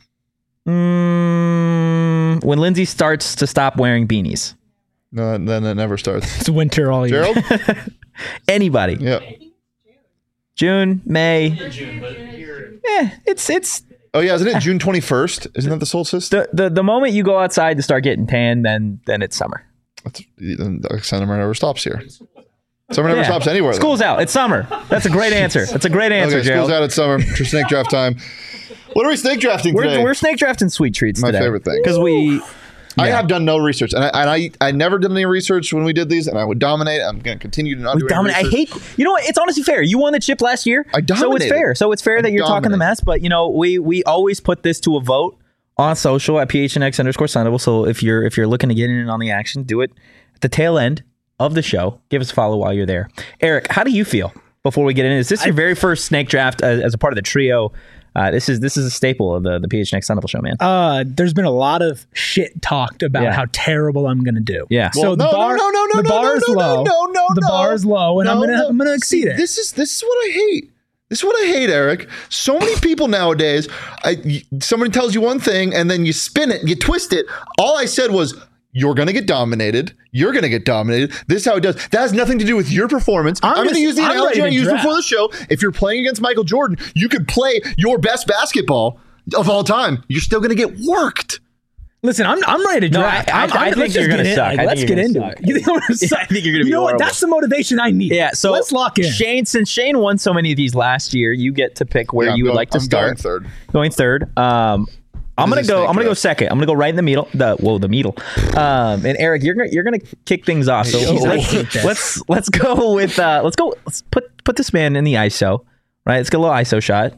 mm, when Lindsay starts to stop wearing beanies. No, then it never starts. It's winter all year. Gerald? Anybody? Yeah. June, May. Eh, it's it's Oh yeah, isn't it June twenty-first? Isn't that the solstice? the, the the moment you go outside to start getting tan, then then it's summer. That's, the summer never stops here. Summer never Yeah. stops anywhere. though. School's out. It's summer. That's a great answer. That's a great answer, Okay, Gerald. school's out at summer. For snake draft time. What are we snake drafting today? We're, we're snake drafting sweet treats My today. favorite thing. Because we I yeah. have done no research, and I, and I I never did any research when we did these, and I would dominate. I'm going to continue to not do any dominate. I research. hate. You know what? It's honestly fair. You won the chip last year. I So it's dominated. fair. So it's fair I that you're talking the dominated. mess. But you know, we we always put this to a vote on social at P H N X underscore Sunable. So if you're if you're looking to get in on the action, do it at the tail end of the show. Give us a follow while you're there. Eric, how do you feel before we get in? Is this your very first snake draft as, as a part of the trio? Uh, this is this is a staple of the the P H N X Sunable show, man. Uh, there's been a lot of shit talked about Yeah. how terrible I'm gonna do. Yeah. So Well, the no, bar, no, no, no, the no, bar no, is no, low. no, no, the no. bar is low, and I'm No, gonna no. I'm gonna exceed See, it. This is this is what I hate. This is what I hate, Eric. So many people nowadays, I, y- somebody tells you one thing and then you spin it, you twist it. All I said was, you're going to get dominated. You're going to get dominated. This is how it does. That has nothing to do with your performance. I'm I'm, going just- to use the I'm analogy ready I to used draft. before the show. If you're playing against Michael Jordan, you could play your best basketball of all time. You're still going to get worked. Listen, I'm I'm ready to No, draft. I- I- I'm, I I'm, think let's you're just gonna get in- suck. like, I think let's you're get gonna into suck. it. You think I'm gonna suck? I think you're gonna be You know what? horrible. That's the motivation I need. Yeah, so let's lock in. Shane, since Shane won so many of these last year, you get to pick where Yeah, I'm you would going- like to I'm start. going third. Going third. Um, I'm gonna This is go. snake I'm gonna go draft. second. I'm gonna go right in the middle. The whoa, the middle. Um, and Eric, you're gonna you're gonna kick things off. So Yo. let's, let's let's go with uh, let's go. Let's put put this man in the I S O. Right. Let's get a little I S O shot.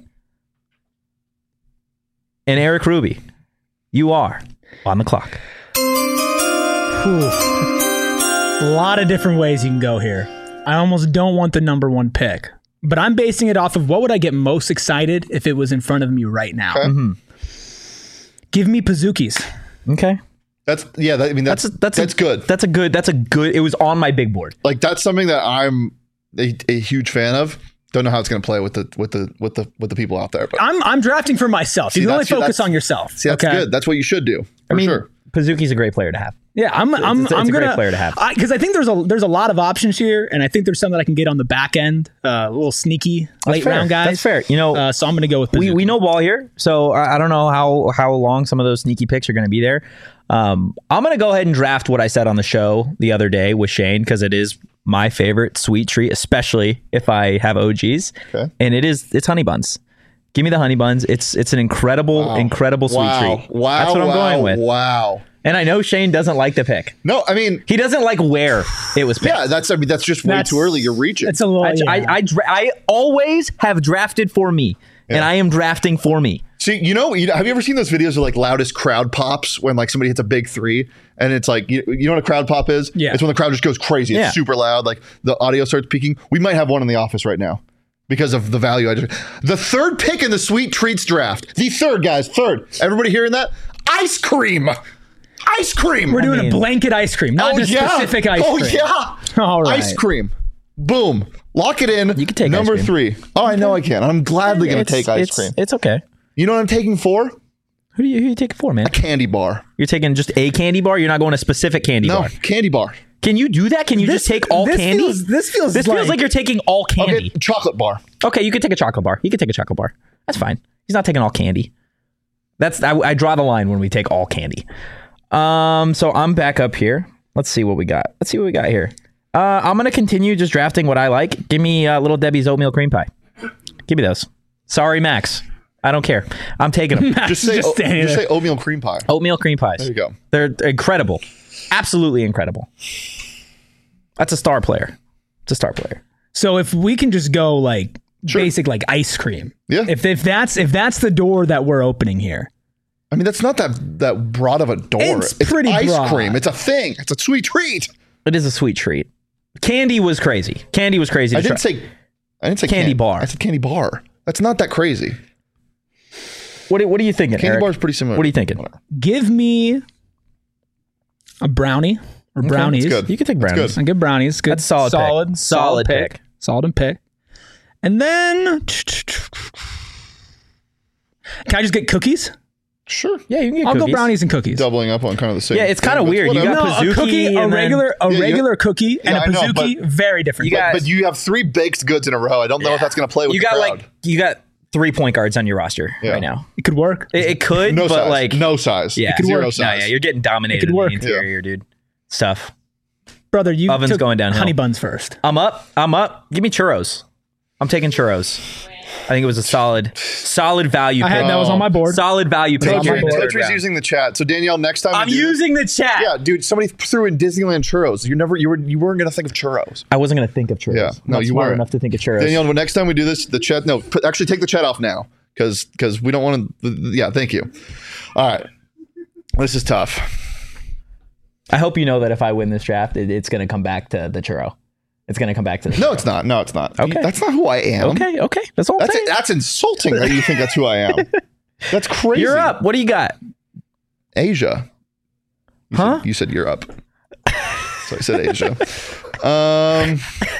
And Eric Ruby, you are on the clock. Whew. A lot of different ways you can go here. I almost don't want the number one pick, but I'm basing it off of what would I get most excited if it was in front of me right now. Okay. Mm-hmm. Give me Pazookies. Okay. That's yeah. That, I mean, that's That's a, that's that's a, good. That's a good. That's a good. It was on my big board. Like that's something that I'm a, a huge fan of. Don't know how it's going to play with the with the with the with the people out there, but I'm I'm drafting for myself. See, you can only that's- focus that's- on yourself. see, that's okay? good. That's what you should do for I mean, sure. Pazuki's a great player to have. Yeah, I'm I'm it's a- I'm it's a great gonna player to have. because I, I think there's a there's a lot of options here, and I think there's some that I can get on the back end, uh, a little sneaky late fair. round guys. That's fair. You know, uh, so I'm gonna go with we, Pazuki. we know ball here, so I, I don't know how how long some of those sneaky picks are going to be there. Um, I'm going to go ahead and draft what I said on the show the other day with Shane because it is my favorite sweet treat, especially if I have O Gs. Okay. And it is it's honey buns. Give me the honey buns. It's it's an incredible Wow. incredible sweet wow. treat. Wow. That's what I'm wow, going with. Wow. And I know Shane doesn't like the pick. No, I mean, He doesn't like where it was picked. yeah, that's I mean that's just way That's- too early. You're reaching. It's a little. I, yeah. I, I, dra- I always have drafted for me, and Yeah. I am drafting for me. See, you know, you, have you ever seen those videos of like loudest crowd pops when like somebody hits a big three and it's like, you, you know what a crowd pop is? Yeah. It's when the crowd just goes crazy. It's Yeah. super loud. Like the audio starts peaking. We might have one in the office right now because of the value. I just, the third pick in the Sweet Treats draft. The third, guys. Third. Everybody hearing that? Ice cream. Ice cream. We're doing mean- a blanket ice cream, not oh, just yeah. specific ice oh, cream. yeah. All right. Ice cream. Boom. Lock it in. You can take number ice three. Oh, I know I can. I'm gladly going to It's- take ice it's, cream. It's okay. You know what I'm taking for? Who do you who you take it for, man? Candy bar. You're taking just a candy bar. You're not going a specific candy No, bar. candy bar. Can you do that? Can you just take all this candy? Feels, this feels this like, feels like you're taking all Okay, candy. chocolate bar. Okay, you can take a chocolate bar. You can take a chocolate bar. That's fine. He's not taking all candy. That's I, I draw the line when we take all candy. Um, so I'm back up here. Let's see what we got. Let's see what we got here. Uh, I'm gonna continue just drafting what I like. Give me uh, Little Debbie's oatmeal cream pie. Give me those. Sorry, Max. I don't care. I'm taking them. Just say Just o- standing just there. say oatmeal cream pie. Oatmeal cream pies. There you go. They're incredible. Absolutely incredible. That's a star player. It's a star player. So if we can just go like Sure. basic like ice cream. Yeah. If if that's if that's the door that we're opening here. I mean, that's not that that broad of a door. It's pretty ice broad. cream. It's a thing. It's a sweet treat. It is a sweet treat. Candy was crazy. Candy was crazy. I to didn't try. say. I didn't say Candy can- bar. I said candy bar. That's not that crazy. What are, what are you thinking, Candy Eric? bar is pretty similar. What are you thinking? Whatever. Give me a brownie or brownies. That's good. You can take That's brownies. good. I get brownies. Good. That's a solid pick. Solid. Solid pick. Solid and pick. And then can I just get cookies? Sure. Yeah, you can get I'll cookies. go brownies and cookies. Doubling up on kind of the same. Yeah, it's thing, kinda but weird. You whatever. got No, a Pizookie cookie, a and then- regular, a Yeah, you- regular cookie, and Yeah, I a know, pizookie. but- very different. You got- But you have three baked goods in a row. I don't know if that's going to play with You the got crowd. like you got three point guards on your roster Yeah. right now. it could work. It, it could, no but size. like no size. yeah, Zero No, size. yeah, you're getting dominated could in work. the interior, dude. Stuff. Brother, you Oven's took going downhill. honey buns first. I'm up. I'm up. Give me churros. I'm taking churros. I think it was a solid, solid value I pick. had that was on my board. Solid value pick. on my here in the board. third Totri's round. using the chat. So Danielle, next time I'm you do this- using the chat. Yeah, dude. Somebody threw in Disneyland churros. You never. You were. You weren't going to think of churros. I wasn't gonna think of churros. Yeah. I'm No, not you smart weren't. enough to think of churros. Danielle, when next time we do this, the chat. No, put, actually take the chat off now because because we don't want to. Yeah. Thank you. All right. This is tough. I hope you know that if I win this draft, it, it's gonna come back to the churro. It's gonna come back to the No, it's not. No, it's not. Okay. That's not who I am. Okay, okay. That's all I'm That's saying. that's insulting that you think that's who I am. That's crazy. You're up. What do you got? Asia. You Huh? Said, you said you're up. So I said Asia. um,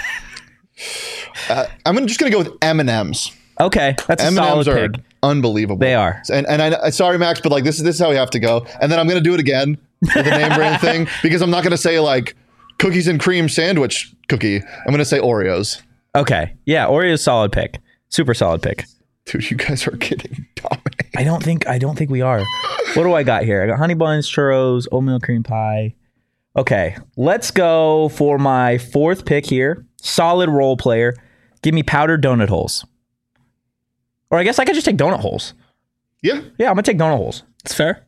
uh, I'm just gonna go with M and M's. Okay, that's a M and solid M's are pick. unbelievable. They are. And and I sorry Max, but like this is this is how we have to go. And then I'm gonna do it again with the name brand thing because I'm not gonna say like cookies and cream sandwich cookie. I'm gonna say Oreos. Okay, yeah, Oreo's solid pick. Super solid pick. Dude, you guys are getting dominated. I don't think I don't think we are. What do I got here? I got honey buns, churros, oatmeal cream pie. Okay, let's go for my fourth pick here. Solid role player. Give me powdered donut holes. Or I guess I could just take donut holes. Yeah. Yeah, I'm gonna take donut holes. It's fair.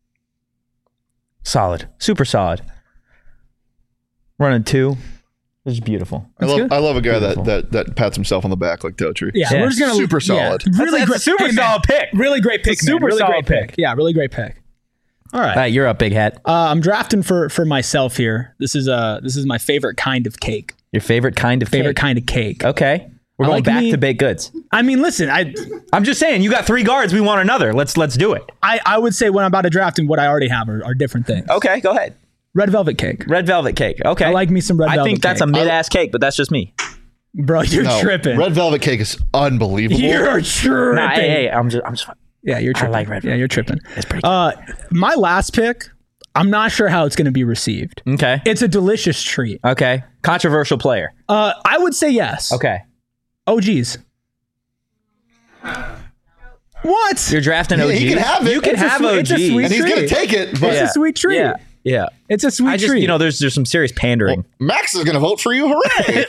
Solid, super solid. Running two. This is beautiful. I love good. I love a guy Beautiful. that, that that pats himself on the back like Totri. Yeah, Yeah, we're just gonna super yeah, solid. really That's a great, super hey, man, solid pick. Really great pick. It's a man. super really solid great pick. Yeah, really great pick. All right, All right, you're up, big hat. uh, I'm drafting for for myself here. This is uh this is my favorite kind of cake. Your favorite kind of Favorite cake. kind of cake. Okay. We're I going like back me- to baked goods. I mean, listen, I I'm just saying, you got three guards. We want another. Let's let's do it. I, I would say when I'm about to draft and what I already have are, are different things. Okay, go ahead. Red velvet cake. Red velvet cake. Okay. I like me some red I velvet think that's a cake. mid-ass cake, but that's just me. Bro, you're No, tripping. Red velvet cake is unbelievable. You're tripping. Nah, hey, hey, I'm just I'm just Yeah, you're tripping. like red Yeah, velvet you're tripping. It's pretty Uh, my last pick, I'm not sure how it's going to be received. Okay. It's a delicious treat. Okay. Controversial player. Uh, I would say yes. Okay. O Gs. What? You're drafting Yeah, O Gs. he can have it. You can It's a have sweet- O Gs. it's a sweet and he's gonna treat. take it. But It's a sweet treat. Yeah. Yeah. It's a sweet I just, treat. you know, there's there's some serious pandering. Max is gonna vote for you. Hooray!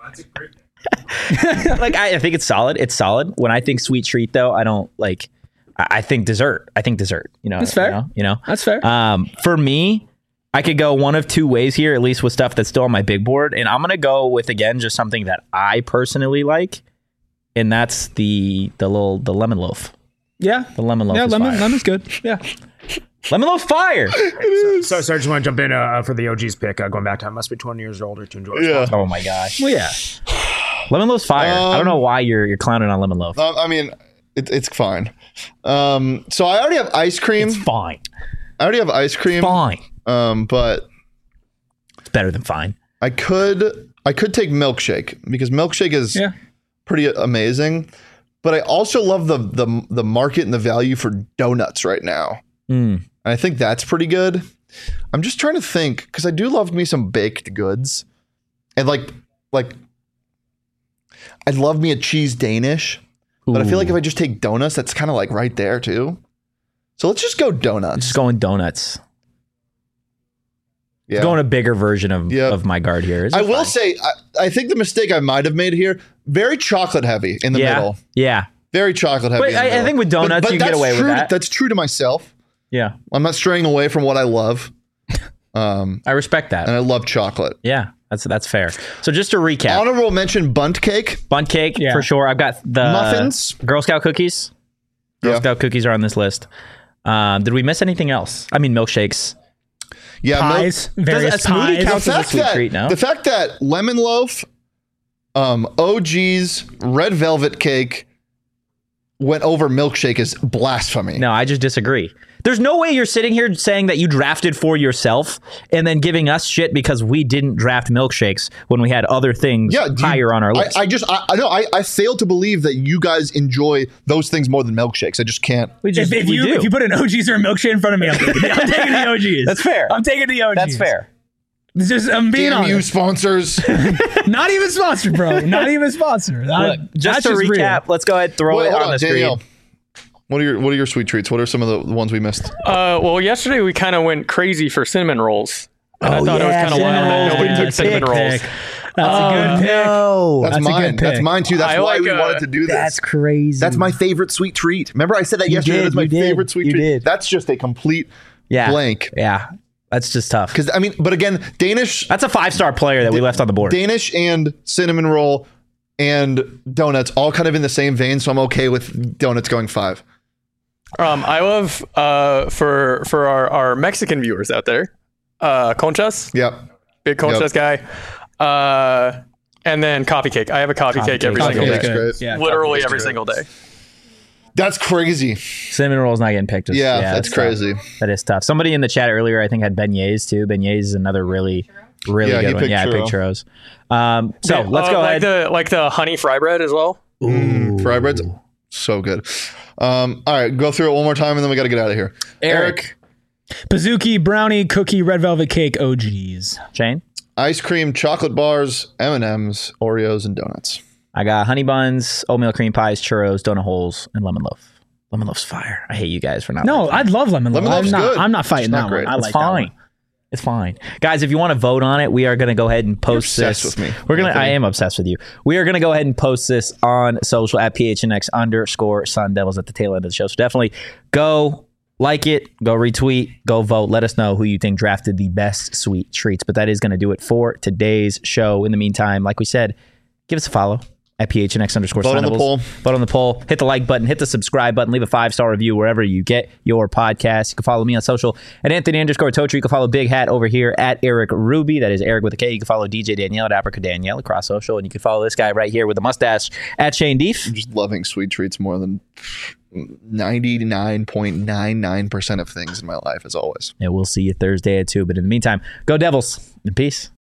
like I, I think it's solid. It's solid. When I think sweet treat though, I don't like I, I think dessert. I think dessert. You know, That's fair. You know, you know? That's fair. Um, for me, I could go one of two ways here, at least with stuff that's still on my big board, and I'm gonna go with again just something that I personally like, and that's the the little the lemon loaf. Yeah. The lemon loaf. Yeah, is lemon, fire. lemon's good. Yeah. Lemon loaf fire. So, so I just want to jump in uh, for the O G's pick. Uh, going back to I must be twenty years older to enjoy. Yeah. Oh my gosh. Well, yeah. Lemon loaf's fire. I don't Um, know why you're you're clowning on lemon loaf. Um, I mean, it, it's fine. Um, so I already have ice cream. It's fine. I already have ice cream. Fine. Um, but It's better than fine. I could I could take milkshake because milkshake is Yeah. pretty amazing. But I also love the the the market and the value for donuts right now. Mm. And I think that's pretty good. I'm just trying to think because I do love me some baked goods, and like like I'd love me a cheese Danish. But I feel like if I just take donuts, that's kind of like right there too. So let's just go donuts. Just going donuts. Yeah. Going a bigger version of, Yep. of my guard here. It's I will fine. say, I, I think the mistake I might have made here, very chocolate heavy in the yeah. middle. Yeah. Very chocolate heavy. But in the I- I middle. think with donuts, you can get that's away with true to- that. That's true to myself. Yeah. I'm not straying away from what I love. Um, I respect that. and I love chocolate. Yeah. That's that's fair. So just to recap, Honorable mention bunt cake. Bundt cake Yeah. for sure. I've got the Muffins. Girl Scout cookies. Girl Yeah. Scout cookies are on this list. Um, did we miss anything else? I mean, milkshakes. Yeah, milk- Pies. Various a smoothie pies. count? the Counts as a fact sweet that treat, no? the fact that lemon loaf, um, O G's red velvet cake went over milkshake is blasphemy. No, I just disagree. There's no way you're sitting here saying that you drafted for yourself and then giving us shit because we didn't draft milkshakes when we had other things Yeah, do you- higher on our list. I, I just I, I know I, I fail to believe that you guys enjoy those things more than milkshakes. I just can't. we just If, if we you do. if you put an O G's or a milkshake in front of me, I'm taking, the, I'm taking the O G's. That's fair. I'm taking the O G's. That's fair. It's just I'm being Damn you, honest. sponsors. Not even sponsored, bro. Not even sponsored. Look, I- just that's to real. recap, let's go ahead and throw Wait, it hold on on, the Danielle. screen. What are your What are your sweet treats? What are some of the ones we missed? Uh, well, yesterday we kind of went crazy for cinnamon rolls. And I thought it was kind of wild that nobody took cinnamon rolls. That's a good pick. No, That's, That's a mine. good That's pick. mine too. That's I why like, we uh, wanted to do this. that's crazy. That's my favorite sweet treat. Remember, I said that You yesterday. did, That's my you did, favorite sweet you treat. did. That's just a complete yeah. blank. Yeah, that's just tough. Because I mean, but again, Danish, That's a five star player that we left on the board. Danish and cinnamon roll and donuts all kind of in the same vein. So I'm okay with donuts going five. Um, I love uh, for for our, our Mexican viewers out there, uh, conchas, Yep. big conchas guy, uh, and then coffee cake. I have a coffee, Coffee cake every cake. single Coffee day, cake's great. Yeah. literally every single day. That's crazy. Cinnamon roll's not getting picked. Yeah, that's tough. crazy. That is tough. Somebody in the chat earlier, I think, had beignets too. Beignets is another really, really Yeah, he good one. picked Yeah, I picked churro. churros. Um, so Yeah, let's uh, go like ahead. the like the honey fry bread as well. Mm, fry bread's so good. Um, all right, go through it one more time and then we got to get out of here. Eric. Pizookie, brownie, cookie, red velvet cake, O G's. Shane, Ice cream, chocolate bars, M and M's, Oreos, and donuts. I got honey buns, oatmeal cream pies, churros, donut holes, and lemon loaf. Lemon loaf's fire. I hate you guys for not. No, liking it. I'd love lemon loaf. Lemon I'm loaf's not, good. I'm not It's fighting not that great. one. I It's like that fine. one. It's fine, guys. If you want to vote on it, we are going to go ahead and post You're obsessed this. with me, We're gonna. Anthony. I am obsessed with you. We are going to go ahead and post this on social at P H N X underscore Sun Devils at the tail end of the show. So definitely go like it, go retweet, go vote. Let us know who you think drafted the best sweet treats. But that is going to do it for today's show. In the meantime, like we said, give us a follow at P H N X underscore Vote Sun on the Devils. poll. Vote on the poll. Hit the like button. Hit the subscribe button. Leave a five star review wherever you get your podcast. You can follow me on social at Anthony underscore Totri. You can follow Big Hat over here at Eric Ruby. That is Eric with a K. You can follow D J Danielle at Africa Danielle across social, and you can follow this guy right here with the mustache at Shane Deef. I'm just loving sweet treats more than ninety-nine point nine nine percent of things in my life, as always. And we'll see you Thursday at two. But in the meantime, go Devils and peace.